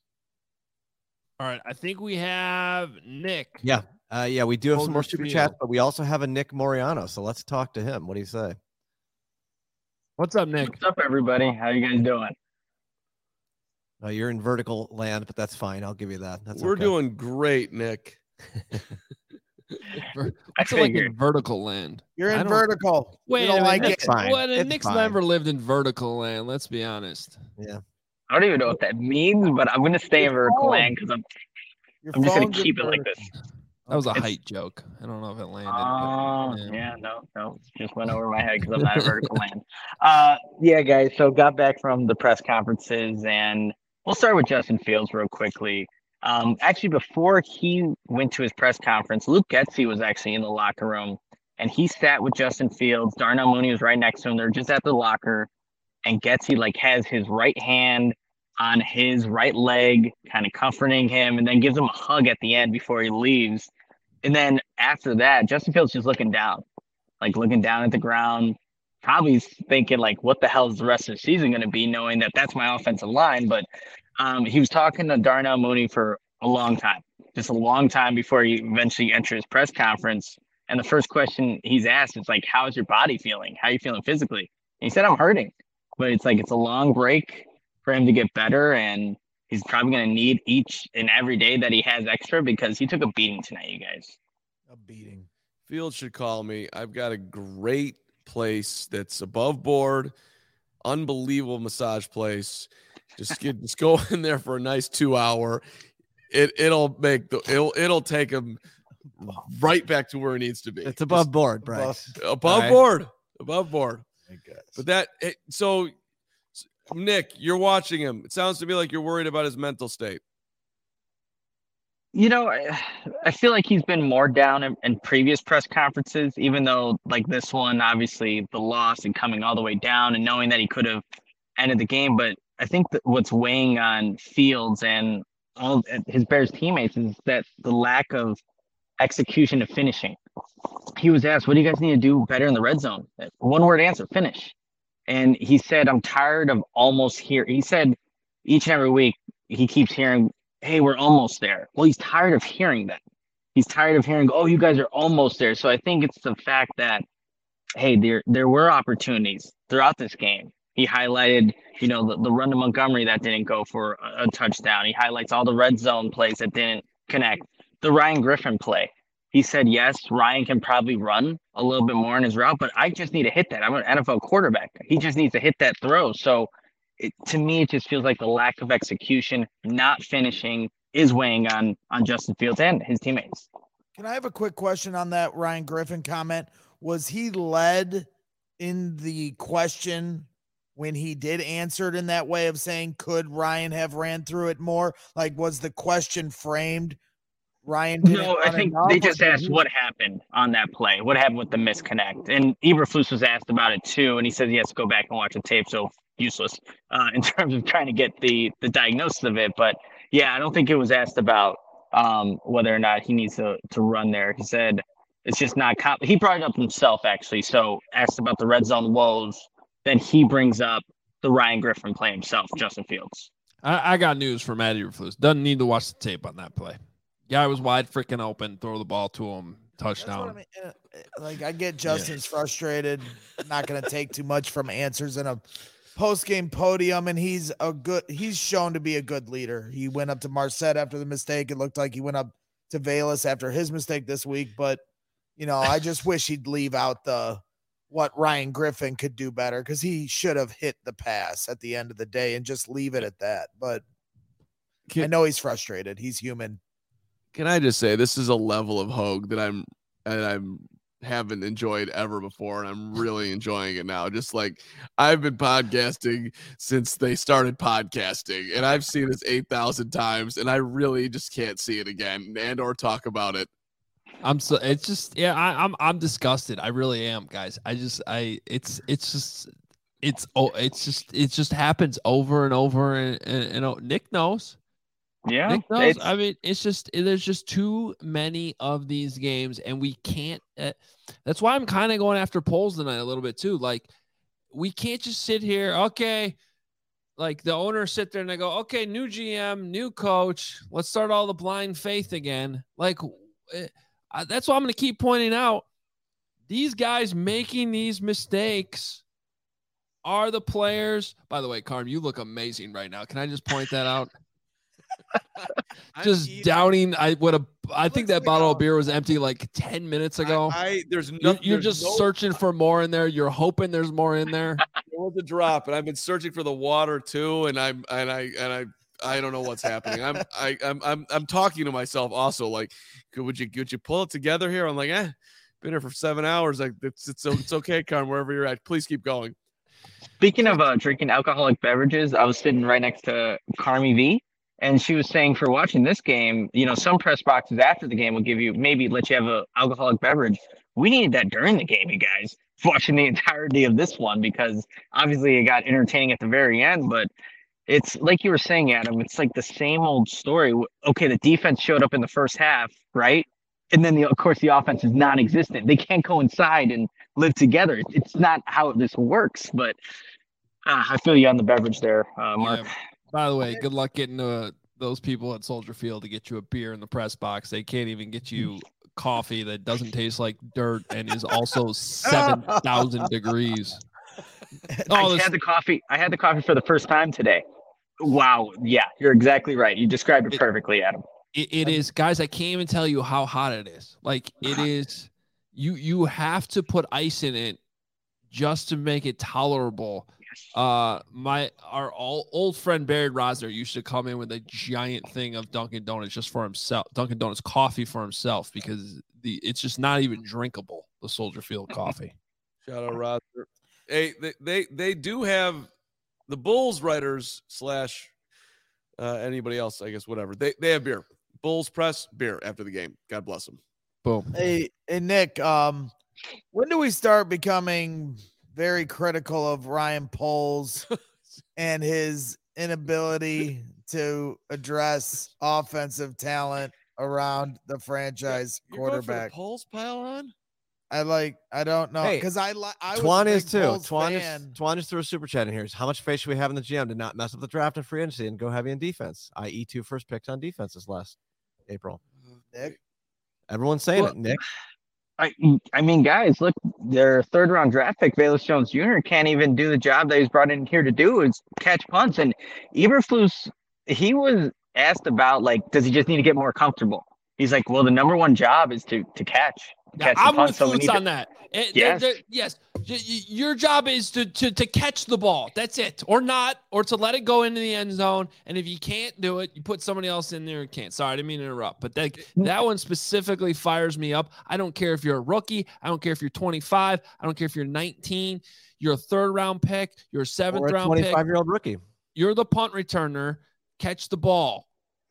All right. I think we have Nick. Yeah. Uh, yeah, we do have some more super chats, but we also have a Nick Moriano. So let's talk to him. What do you say? What's up, Nick? What's up, everybody? How you guys doing? Uh, you're in vertical land, but that's fine. I'll give you that. That's We're okay. doing great, Nick. I feel like in vertical land. You're I in don't- vertical. Wait you a don't minute, like Nick's it. fine. What? It's Nick's fine. never lived in vertical land. Let's be honest. Yeah. I don't even know what that means, but I'm gonna stay in Your vertical phone. land because I'm Your I'm just gonna phone's in keep it like vertical. this. That was a It's- height joke. I don't know if it landed. Oh, but, yeah. yeah, no, no, just went over my head because I'm not in vertical land. Uh, yeah, guys. So got back from the press conferences, and we'll start with Justin Fields real quickly. Um, actually, before he went to his press conference, Luke Getsy was actually in the locker room, and he sat with Justin Fields. Darnell Mooney was right next to him. They're just at the locker, and Getsy like has his right hand on his right leg, kind of comforting him, and then gives him a hug at the end before he leaves. And then after that, Justin Fields just looking down, like looking down at the ground, probably thinking like, what the hell is the rest of the season going to be, knowing that that's my offensive line. But um, he was talking to Darnell Mooney for a long time, just a long time before he eventually entered his press conference. And the first question he's asked is like, how's your body feeling? How are you feeling physically? And he said, I'm hurting, but it's like, it's a long break for him to get better. And he's probably going to need each and every day that he has extra because he took a beating tonight, you guys. A beating. Fields should call me. I've got a great place that's above board, unbelievable massage place. Just get, just go in there for a nice two hour. It it'll make the it'll it'll take him right back to where he needs to be. It's above board, Bryce. Just above Right. board, above board. I guess. But that it, so, Nick, you're watching him. It sounds to me like you're worried about his mental state. You know, I, I feel like he's been more down in, in previous press conferences, even though like this one, obviously the loss and coming all the way down and knowing that he could have ended the game. But I think that what's weighing on Fields and all his Bears teammates is that the lack of execution of finishing. He was asked, what do you guys need to do better in the red zone? One word answer, finish. And he said, I'm tired of almost here. He said each and every week he keeps hearing, hey, we're almost there. Well, he's tired of hearing that. He's tired of hearing, oh, you guys are almost there. So I think it's the fact that, hey, there there were opportunities throughout this game. He highlighted, you know, the, the run to Montgomery that didn't go for a, a touchdown. He highlights all the red zone plays that didn't connect. The Ryan Griffin play. He said, yes, Ryan can probably run a little bit more in his route, but I just need to hit that. I'm an N F L quarterback. He just needs to hit that throw. So it, to me, it just feels like the lack of execution, not finishing, is weighing on on Justin Fields and his teammates. Can I have a quick question on that Ryan Griffin comment? Was he led in the question when he did answer it in that way of saying, could Ryan have ran through it more? Like, was the question framed? Ryan didn't No, I run think enough, they or just did asked he- what happened on that play. What happened with the misconnect? And Eberflus was asked about it too, and he said he has to go back and watch the tape. So useless uh, in terms of trying to get the the diagnosis of it. But yeah, I don't think it was asked about um, whether or not he needs to to run there. He said it's just not. Comp- he brought it up himself actually. So asked about the red zone woes, then he brings up the Ryan Griffin play himself, Justin Fields. I, I got news for Matt Eberflus. Doesn't need to watch the tape on that play. Guy was wide freaking open. Throw the ball to him. That's what Touchdown. I mean. Uh, uh, Like, I get Justin's frustrated, not going to take too much from answers in a post-game podium, and he's a good, he's shown to be a good leader. He went up to Marset after the mistake. It looked like he went up to Valus after his mistake this week, but you know, I just wish he'd leave out the, what Ryan Griffin could do better, because he should have hit the pass at the end of the day and just leave it at that. But Can- I know he's frustrated. He's human. Can I just say this is a level of Hogue that I'm and I'm haven't enjoyed ever before, and I'm really enjoying it now. Just like I've been podcasting since they started podcasting, and I've seen this eight thousand times, and I really just can't see it again and or talk about it. I'm so it's just yeah I, I'm I'm disgusted. I really am, guys. I just I it's it's just it's oh it's just it just happens over and over and and, and oh, Nick knows. Yeah, Nick knows. it's- I mean, it's just there's just too many of these games, and we can't. Uh, that's why I'm kind of going after polls tonight a little bit too. Like, we can't just sit here. Okay, like the owners sit there and they go, okay, new G M, new coach. Let's start all the blind faith again. Like, uh, that's why I'm going to keep pointing out these guys making these mistakes are the players. By the way, Carm, you look amazing right now. Can I just point that out? Just eating- downing. I would have. I think Looks that like bottle a- of beer was empty like ten minutes ago. I, I there's you're nothing. you're there's just no, searching for more in there. You're hoping there's more in there. There was a drop, and I've been searching for the water too, and I'm and I and I I don't know what's happening. I'm I I'm I'm I'm talking to myself also. Like, could would you could you pull it together here? I'm like, eh, been here for seven hours. Like, it's it's it's okay, Carm. Wherever you're at, please keep going. Speaking of uh, drinking alcoholic beverages, I was sitting right next to Carmi V, and she was saying for watching this game, you know, some press boxes after the game will give you maybe let you have a alcoholic beverage. We needed that during the game, you guys, watching the entirety of this one, because obviously it got entertaining at the very end, but it's like you were saying, Adam, it's like the same old story. Okay, the defense showed up in the first half, right? And then, the, of course, the offense is non-existent. They can't coincide and live together. It's not how this works, but uh, I feel you on the beverage there, uh, Mark. Yeah. By the way, good luck getting uh, those people at Soldier Field to get you a beer in the press box. They can't even get you coffee that doesn't taste like dirt and is also seven thousand degrees. I this- had the coffee. I had the coffee for the first time today. Wow. Yeah, you're exactly right. You described it It- perfectly, Adam. It, it is, guys. I can't even tell you how hot it is. Like it is. You you have to put ice in it just to make it tolerable. Uh, my our all, old friend Barry Rosner used to come in with a giant thing of Dunkin' Donuts just for himself. Dunkin' Donuts coffee for himself because the it's just not even drinkable. The Soldier Field coffee. Shout out Roger. Hey, they they they do have the Bulls writers slash uh, anybody else, I guess, whatever. They they have beer. Bulls press beer after the game. God bless them. Boom. Hey, hey Nick, um, when do we start becoming very critical of Ryan Poles and his inability to address offensive talent around the franchise You're going for the quarterback? Pulse pile on? I like, I don't know, Hey, because I like, I was Twan a is big too. Poles Twan is, fan. Twan is through a super chat in here. How much faith should we have in the G M to not mess up the draft and free agency and go heavy in defense? that is, two first picks on defenses last April. Nick? Everyone's saying Well, it, Nick. I I mean, guys, look, their third round draft pick, Velus Jones Junior, can't even do the job that he's brought in here to do, is catch punts. And Eberflus, he was asked about, like, does he just need to get more comfortable? He's like, well, the number one job is to to catch. Yeah, catch the I'm punt, with so we Flutes need to- on that. It- Yes. there- there- yes. Y- y- Your job is to, to to catch the ball. That's it, or not, or to let it go into the end zone. And if you can't do it, you put somebody else in there who can't. Sorry, I didn't mean to interrupt, but that that one specifically fires me up. I don't care if you're a rookie. I don't care if you're twenty-five. I don't care if you're nineteen. You're a third round pick. You're a seventh Or a round pick. twenty-five year old rookie. You're the punt returner. Catch the ball.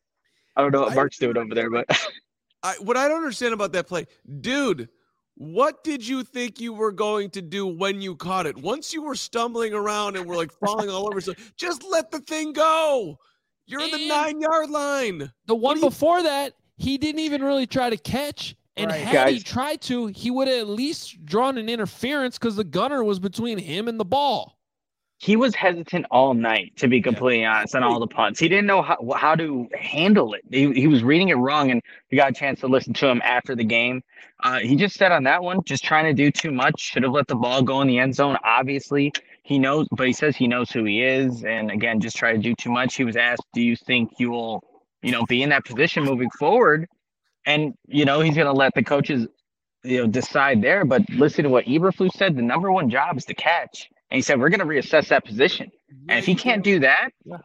I don't know what I- Mark's doing over there, but I what I don't understand about that play, dude. What did you think you were going to do when you caught it? Once you were stumbling around and were like falling all over yourself, just let the thing go. You're in the And- nine yard line. The one do you- before that, he didn't even really try to catch. And Right. had he Guys. tried to, he would have at least drawn an interference because the gunner was between him and the ball. he was hesitant all night, to be completely honest, on all the punts. He didn't know how, how to handle it. He, he was reading it wrong, and we got a chance to listen to him after the game. Uh, he just said on that one, just trying to do too much. Should have let the ball go in the end zone. Obviously, he knows, but he says he knows who he is. And again, just try to do too much. He was asked, do you think you will, you know, be in that position moving forward? And, you know, he's going to let the coaches, you know, decide there. But listen to what Eberflus said. The number one job is to catch. And he said, we're going to reassess that position. And if he can't do that, You're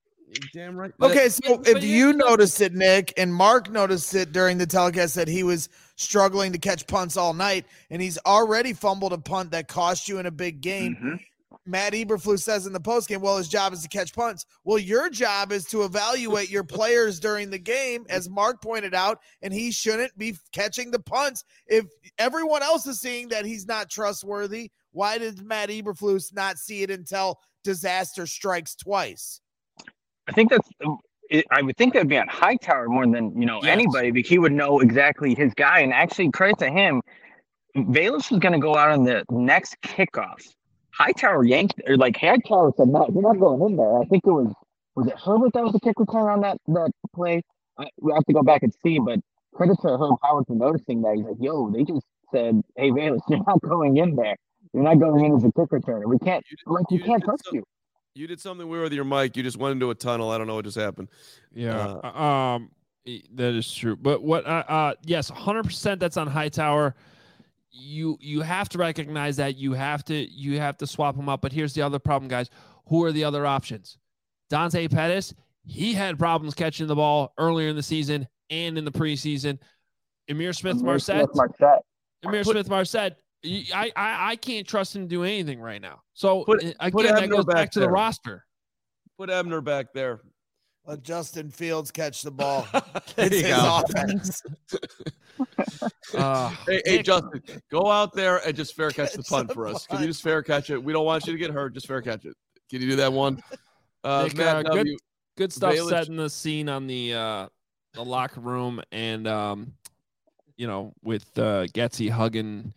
damn right. Okay, so but- if but you here's the- noticed it, Nick, and Mark noticed it during the telecast that he was struggling to catch punts all night, and he's already fumbled a punt that cost you in a big game. Mhm. Matt Eberflus says in the postgame, well, his job is to catch punts. Well, your job is to evaluate your players during the game, as Mark pointed out, and he shouldn't be catching the punts. If everyone else is seeing that he's not trustworthy, why did Matt Eberflus not see it until disaster strikes twice? I think that's, it, I would think that'd be on Hightower more than, you know, Yes. anybody, because he would know exactly his guy. And actually, credit to him, Velus was going to go out on the next kickoff. Hightower yanked, or like Hightower said, no, you're not going in there. I think it was, was it Herbert that was the kick return on that, that play? I, we have to go back and see, but credit to Herb Howard for noticing that. He's like, yo, they just said, hey, Velus, you're not going in there. You're not going in as a kick returner. We can't, You did- like, we you can't did touch some- you. You did something weird with your mic. You just went into a tunnel. I don't know what just happened. Yeah. Uh, um, e- that is true. But what? Uh, uh yes, one hundred percent. That's on Hightower. You you have to recognize that. You have to you have to swap them up. But here's the other problem, guys. Who are the other options? Dante Pettis. He had problems catching the ball earlier in the season and in the preseason. Amir Smith Marset. Marset. Amir Put- Smith Marset. I, I I can't trust him to do anything right now. So Put- uh, put again, that Abner goes back, back to the there. roster. Put Abner back there. Let Justin Fields catch the ball. There It's you his go. offense. Uh, Hey, hey, Nick, Justin, go out there and just fair catch the Catch punt the for us. Can punt. you just fair catch it? We don't want you to get hurt. Just fair catch it. Can you do that one? Uh, Nick, Matt uh, good- W. good stuff Baelish- setting the scene on the uh the locker room and um you know with uh Getsy hugging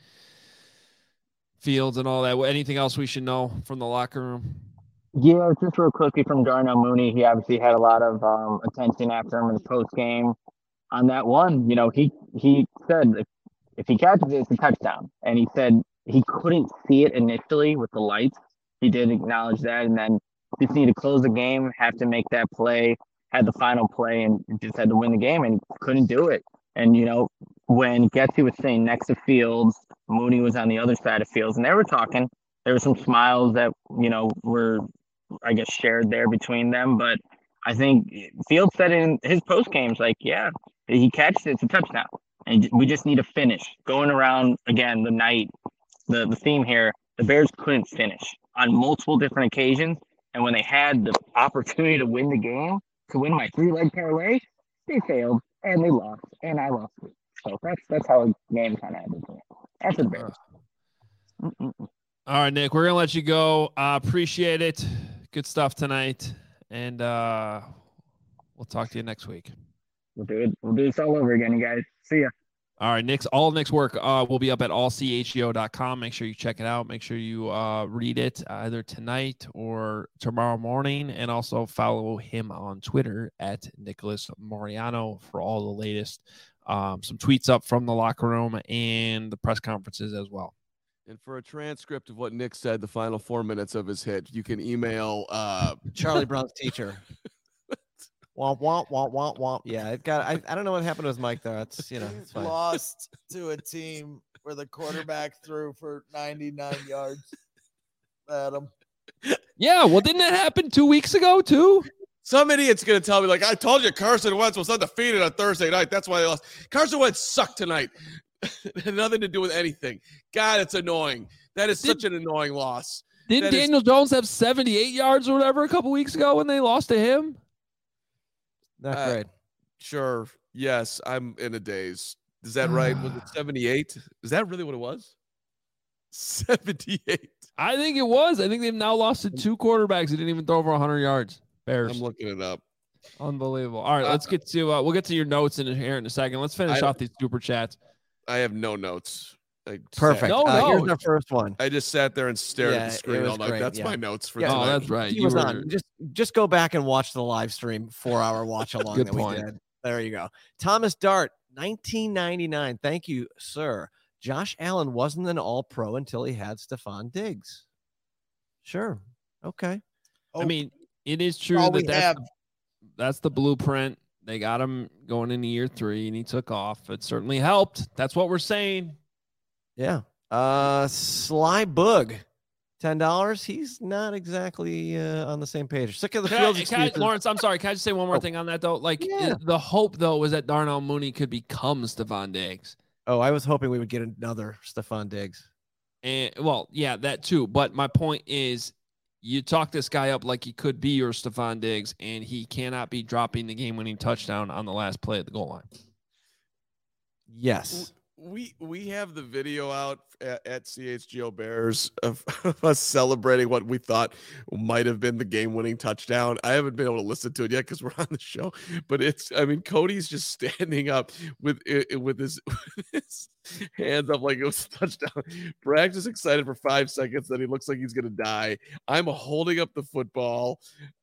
Fields and all that. Anything else we should know from the locker room? Yeah, just real quickly from Darnell Mooney. He obviously had a lot of um, attention after him in the post game on that one. You know, he he said if, if he catches it, it's a touchdown. And he said he couldn't see it initially with the lights. He did acknowledge that, and then just need to close the game, have to make that play, had the final play, and just had to win the game, and couldn't do it. And you know, when Getsy was sitting next to Fields, Mooney was on the other side of Fields, and they were talking. There were some smiles that you know were, I guess, shared there between them. But I think Fields said in his post games, like, yeah, he catches it, it's a touchdown, and we just need to finish. Going around again the night, the the theme here, the Bears couldn't finish on multiple different occasions, and when they had the opportunity to win the game, to win my three leg parlay, they failed and they lost, and I lost it. So that's that's how a game kind of ended. That's the Bears. Mm-mm. All right, Nick, we're gonna let you go. Uh, appreciate it. Good stuff tonight, and uh, we'll talk to you next week. We'll do it. We'll do this all over again, you guys. See ya. All right, Nick's all Nick's work uh, will be up at all c h g o dot com. Make sure you check it out. Make sure you uh, read it either tonight or tomorrow morning, and also follow him on Twitter at Nicholas Moriano for all the latest. Um, some tweets up from the locker room and the press conferences as well. And for a transcript of what Nick said, the final four minutes of his hit, you can email uh, Charlie Brown's teacher. Womp womp womp womp womp. Yeah, it got. I, I don't know what happened to his mic there. It's you know it's fine. Lost to a team where the quarterback threw for ninety-nine yards. Adam. Yeah, well, didn't that happen two weeks ago too? Some idiot's going to tell me, like, I told you Carson Wentz was undefeated on Thursday night. That's why they lost. Carson Wentz sucked tonight. It had nothing to do with anything. God, it's annoying. That is Did- such an annoying loss. Didn't That is- Daniel Jones have seventy-eight yards or whatever a couple weeks ago when they lost to him? Not Uh, great. Sure. Yes, I'm in a daze. Is that right? Was it seventy-eight? Is that really what it was? seventy-eight. I think it was. I think they've now lost to two quarterbacks who didn't even throw over one hundred yards. Bears. I'm looking it up. Unbelievable. All right, Uh, let's get to uh, we'll get to your notes in here in a second. Let's finish I- off these super chats. I have no notes. I Perfect. Sat, No, uh, no. Here's our first one. I just sat there and stared Yeah, at it the screen was all night. great, That's yeah. my notes for Yeah. tonight. Oh, that's right. He You was were on. Just just go back and watch the live stream four hour watch along Good that point. we did. There you go. Thomas Dart, nineteen ninety-nine. Thank you, sir. Josh Allen wasn't an all pro until he had Stephon Diggs. Sure. Okay. Oh, I mean, it is true all that we that's, have. the, that's the blueprint. They got him going into year three, and he took off. It certainly helped. That's what we're saying. Yeah. Uh Sly Boog, ten dollars. He's not exactly uh, on the same page. Sick of the Can I- field can I- excuses. Lawrence, I'm sorry. Can I just say one more Oh. thing on that though? Like Yeah. i- the hope though was that Darnell Mooney could become Stephon Diggs. Oh, I was hoping we would get another Stephon Diggs. And well, yeah, that too. But my point is, you talk this guy up like he could be your Stephon Diggs, and he cannot be dropping the game-winning touchdown on the last play at the goal line. Yes. We we have the video out at, at C H G O Bears of, of us celebrating what we thought might have been the game-winning touchdown. I haven't been able to listen to it yet because we're on the show, but it's I mean Cody's just standing up with it with his, with his hands up like it was a touchdown. Bragg's just excited for five seconds that he looks like he's gonna die. I'm holding up the football.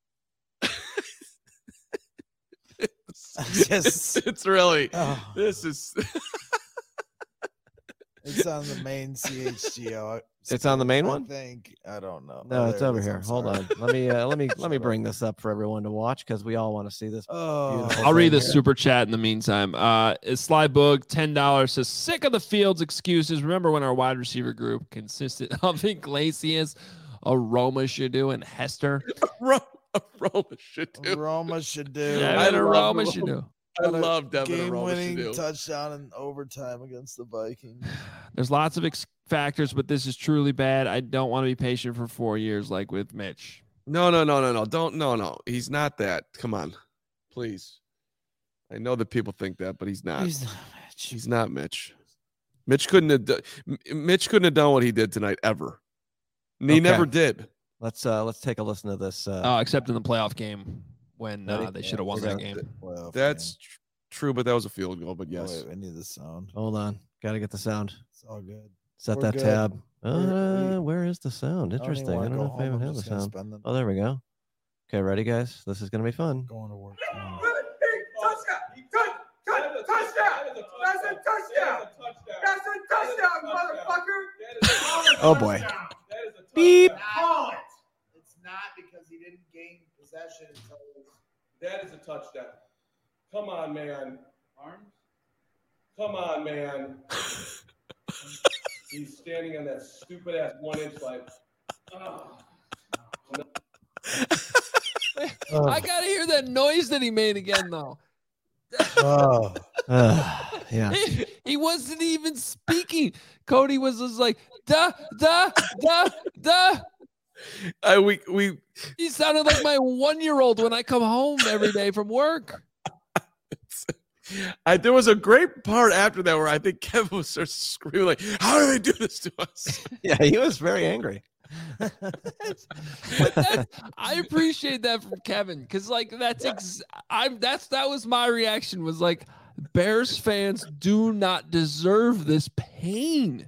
it's, Just- it's really Oh, this is. it's on the main C H G O. It's on the main I one? think I don't know. No, Oh, it's there it over is. here. I'm Hold sorry. on. Let me uh, let me let me Shut bring up. this up for everyone to watch because we all want to see this. Oh, Beautiful. I'll read the thing here. super chat in the meantime. Uh, Sly Boog, ten dollars says, sick of the Fields excuses. Remember when our wide receiver group consisted of Iglesias, Aroma Shadu, and Hester? Ro- Roma should do. Roma should do. Yeah, I and love Aroma Aroma. Shadu. I love Devin Aroma game-winning should do. touchdown in overtime against the Vikings. There's lots of ex- factors, but this is truly bad. I don't want to be patient for four years like with Mitch. No, no, no, no, no. Don't, no, no. He's not that. Come on, please. I know that people think that, but he's not. He's not Mitch. He's not Mitch. Mitch couldn't have. Do- M- Mitch couldn't have done what he did tonight ever. And he Okay. never did. Let's uh let's take a listen to this. Uh, Uh, except in the playoff game when uh, Ready? they should have won that game. Playoff That's game. tr- true, but that was a field goal. But yes, Wait, I need the sound. hold on, got to get the sound. It's all good. Set We're that good. tab. We're- Uh, where is the sound? I don't even Interesting. I wanna don't go know if I home. even I'm have the just gonna sound. spend the- Oh, there we go. Okay, ready, guys? This is gonna be fun. Going to work. tomorrow. Oh boy. Beep. It's not because he didn't gain possession until that is a touchdown. Come on, man. Come on, man. He's standing on that stupid ass one inch like. Oh. I gotta hear that noise that he made again, though. Oh. Uh, yeah. He, he wasn't even speaking. Cody was just like, da, da, da, da. I we we He sounded like my one-year-old when I come home every day from work. I, there was a great part after that where I think Kevin was sort of screaming like, "How do they do this to us?" Yeah, he was very angry. But that's, I appreciate that from Kevin because, like, that's ex- I'm that's that was my reaction. Was like, Bears fans do not deserve this pain.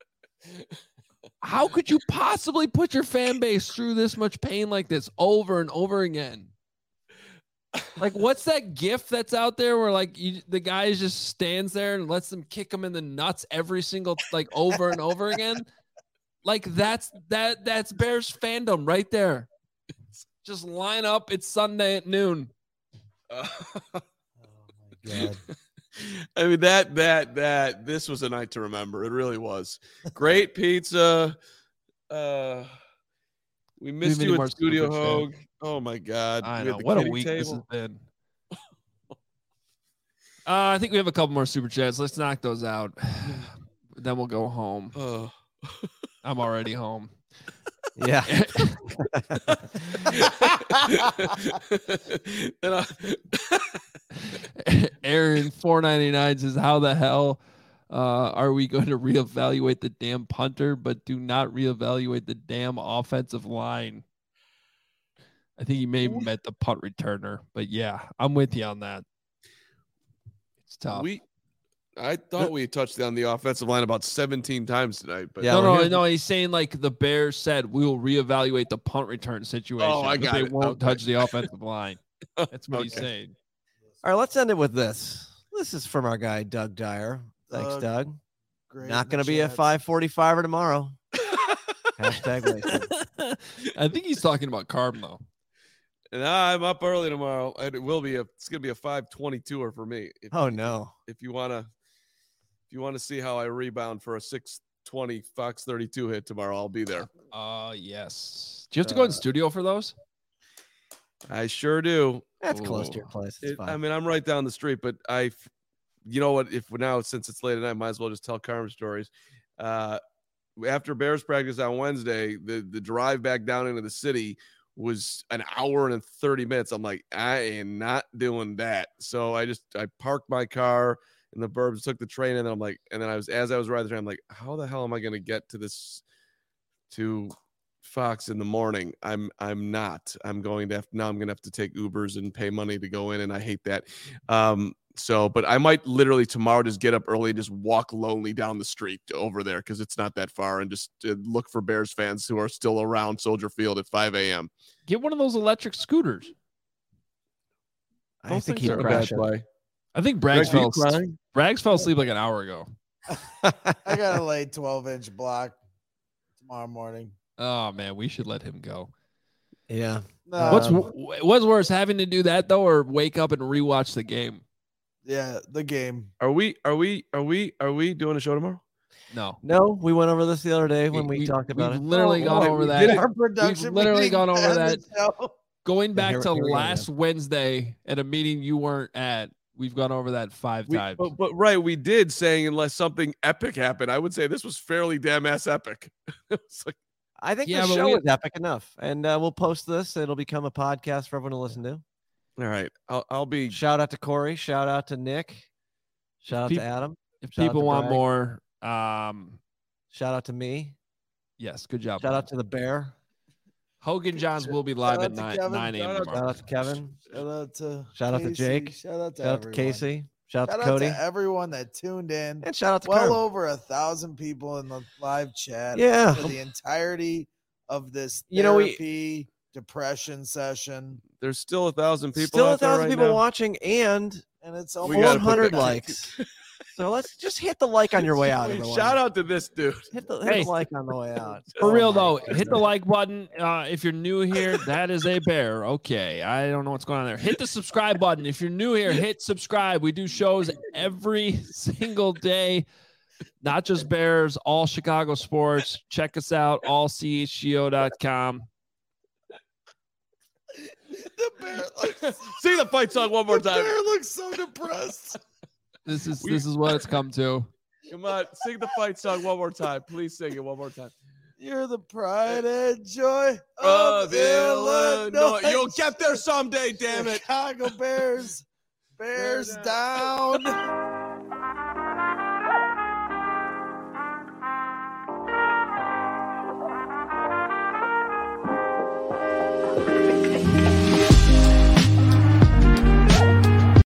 How could you possibly put your fan base through this much pain like this over and over again? Like, what's that gif that's out there where like you, the guy just stands there and lets them kick him in the nuts every single like over and over again? Like that's that that's Bears fandom right there. Just line up. It's Sunday at noon. Uh, Oh my god. I mean that that that this was a night to remember. It really was. Great pizza. Uh, we missed many you more at Studio super Hogue. Oh my god! I We had know the what a kiddie week this has table. been. Uh, I think we have a couple more super chats. Let's knock those out. Then we'll go home. Oh. I'm already home. Yeah. And I- Aaron four ninety-nine says, "How the hell uh, are we going to reevaluate the damn punter, but do not reevaluate the damn offensive line?" I think he may have met the punt returner, but yeah, I'm with you on that. It's tough. we, I thought we touched on the offensive line about seventeen times tonight, but Yeah, no, well, no, here's no. He's saying like the Bears said we will reevaluate the punt return situation. Oh, I but got they it. won't Okay. touch the offensive line. That's what he's Okay. saying. All right, let's end it with this. This is from our guy Doug Dyer. Thanks, Doug, Doug. Great Not in going to the be a chats. five forty-five or tomorrow. Hashtag wasted. I think he's talking about Carb though. and I'm up early tomorrow. And it will be a. It's gonna be a five twenty-two-er for me. If, Oh no. if you wanna, if you wanna see how I rebound for a six twenty Fox thirty-two hit tomorrow, I'll be there. Uh yes. Do you have to go in Uh, studio for those? I sure do. That's close Ooh. to your place. It's It- fine. I mean, I'm right down the street, but I, f- you know what? If now since it's late at night, might as well just tell Carmen stories. Uh, after Bears practice on Wednesday, the the drive back down into the city was an hour and thirty minutes. I'm like, I am not doing that. So I just I parked my car in the burbs, took the train, and then I'm like, and then I was as I was riding the train, I'm like, how the hell am I going to get to this to Fox in the morning? I'm I'm not. I'm going to have now. I'm going to have to take Ubers and pay money to go in, and I hate that. Um, so, but I might literally tomorrow just get up early and just walk lonely down the street over there because it's not that far, and just uh, look for Bears fans who are still around Soldier Field at five a.m. Get one of those electric scooters. I Those think things he'd aren't a bad crash it. play. I think Greg, Braggs are you fell, crying? Braggs fell asleep like an hour ago. I got a late twelve inch block tomorrow morning. Oh man, we should let him go. Yeah. No, What's Um, what's worse, having to do that though, or wake up and rewatch the game? yeah, the game. Are we? Are we? Are we? Are we doing a show tomorrow? No, No, we went over this the other day when we, talked about we've it. literally Oh, gone boy, over we that. did it. Our production We've literally meeting gone over and that. the show. Going Yeah, back here- to here we go, last Wednesday at a meeting you weren't at, we've gone over that five We, times. but, but right, we did saying unless something epic happened. I would say this was fairly damn ass epic. It's like, I think Yeah, the but show we- is epic enough, and uh, we'll post this. It'll become a podcast for everyone to listen to. all right, I'll, I'll be. Shout out to Corey. Shout out to Nick. Shout out Peop- to Adam. if shout out people to want Bragg. more, um, Shout out to me. yes, good job. Shout buddy. out to the Bear. Hogan Johns will be live out at to nine Kevin. nine Shout a.m. out- tomorrow. Shout out to Kevin. Shout out to Shout out to Casey. Jake. Shout out to Shout out to everyone. Casey. Shout out Shout to Cody. out to everyone that tuned in. And shout out to Well Carm. over a thousand people in the live chat. Yeah. For the entirety of this You know, we- therapy depression session, There's still a thousand people. Still a out there thousand right people now. watching and and it's We almost gotta one hundred put that- likes. So let's just hit the like on your way out. Everyone. Shout out to this dude. Hit the, hit Hey. the like on the way out. For Oh real my though, goodness. hit the like button. Uh, if you're new here, that is a bear. Okay, I don't know what's going on there. Hit the subscribe button. If you're new here, hit subscribe. We do shows every single day, not just Bears, all Chicago sports. Check us out, all c h g o dot com. the bear looks, Sing the fight song one more the time. bear looks so depressed. This is this is what it's come to. Come on, sing the fight song one more time. Please sing it one more time. You're the pride and joy Of of Illinois. Illinois. You'll get there someday, damn it. Chicago Bears. Bears down.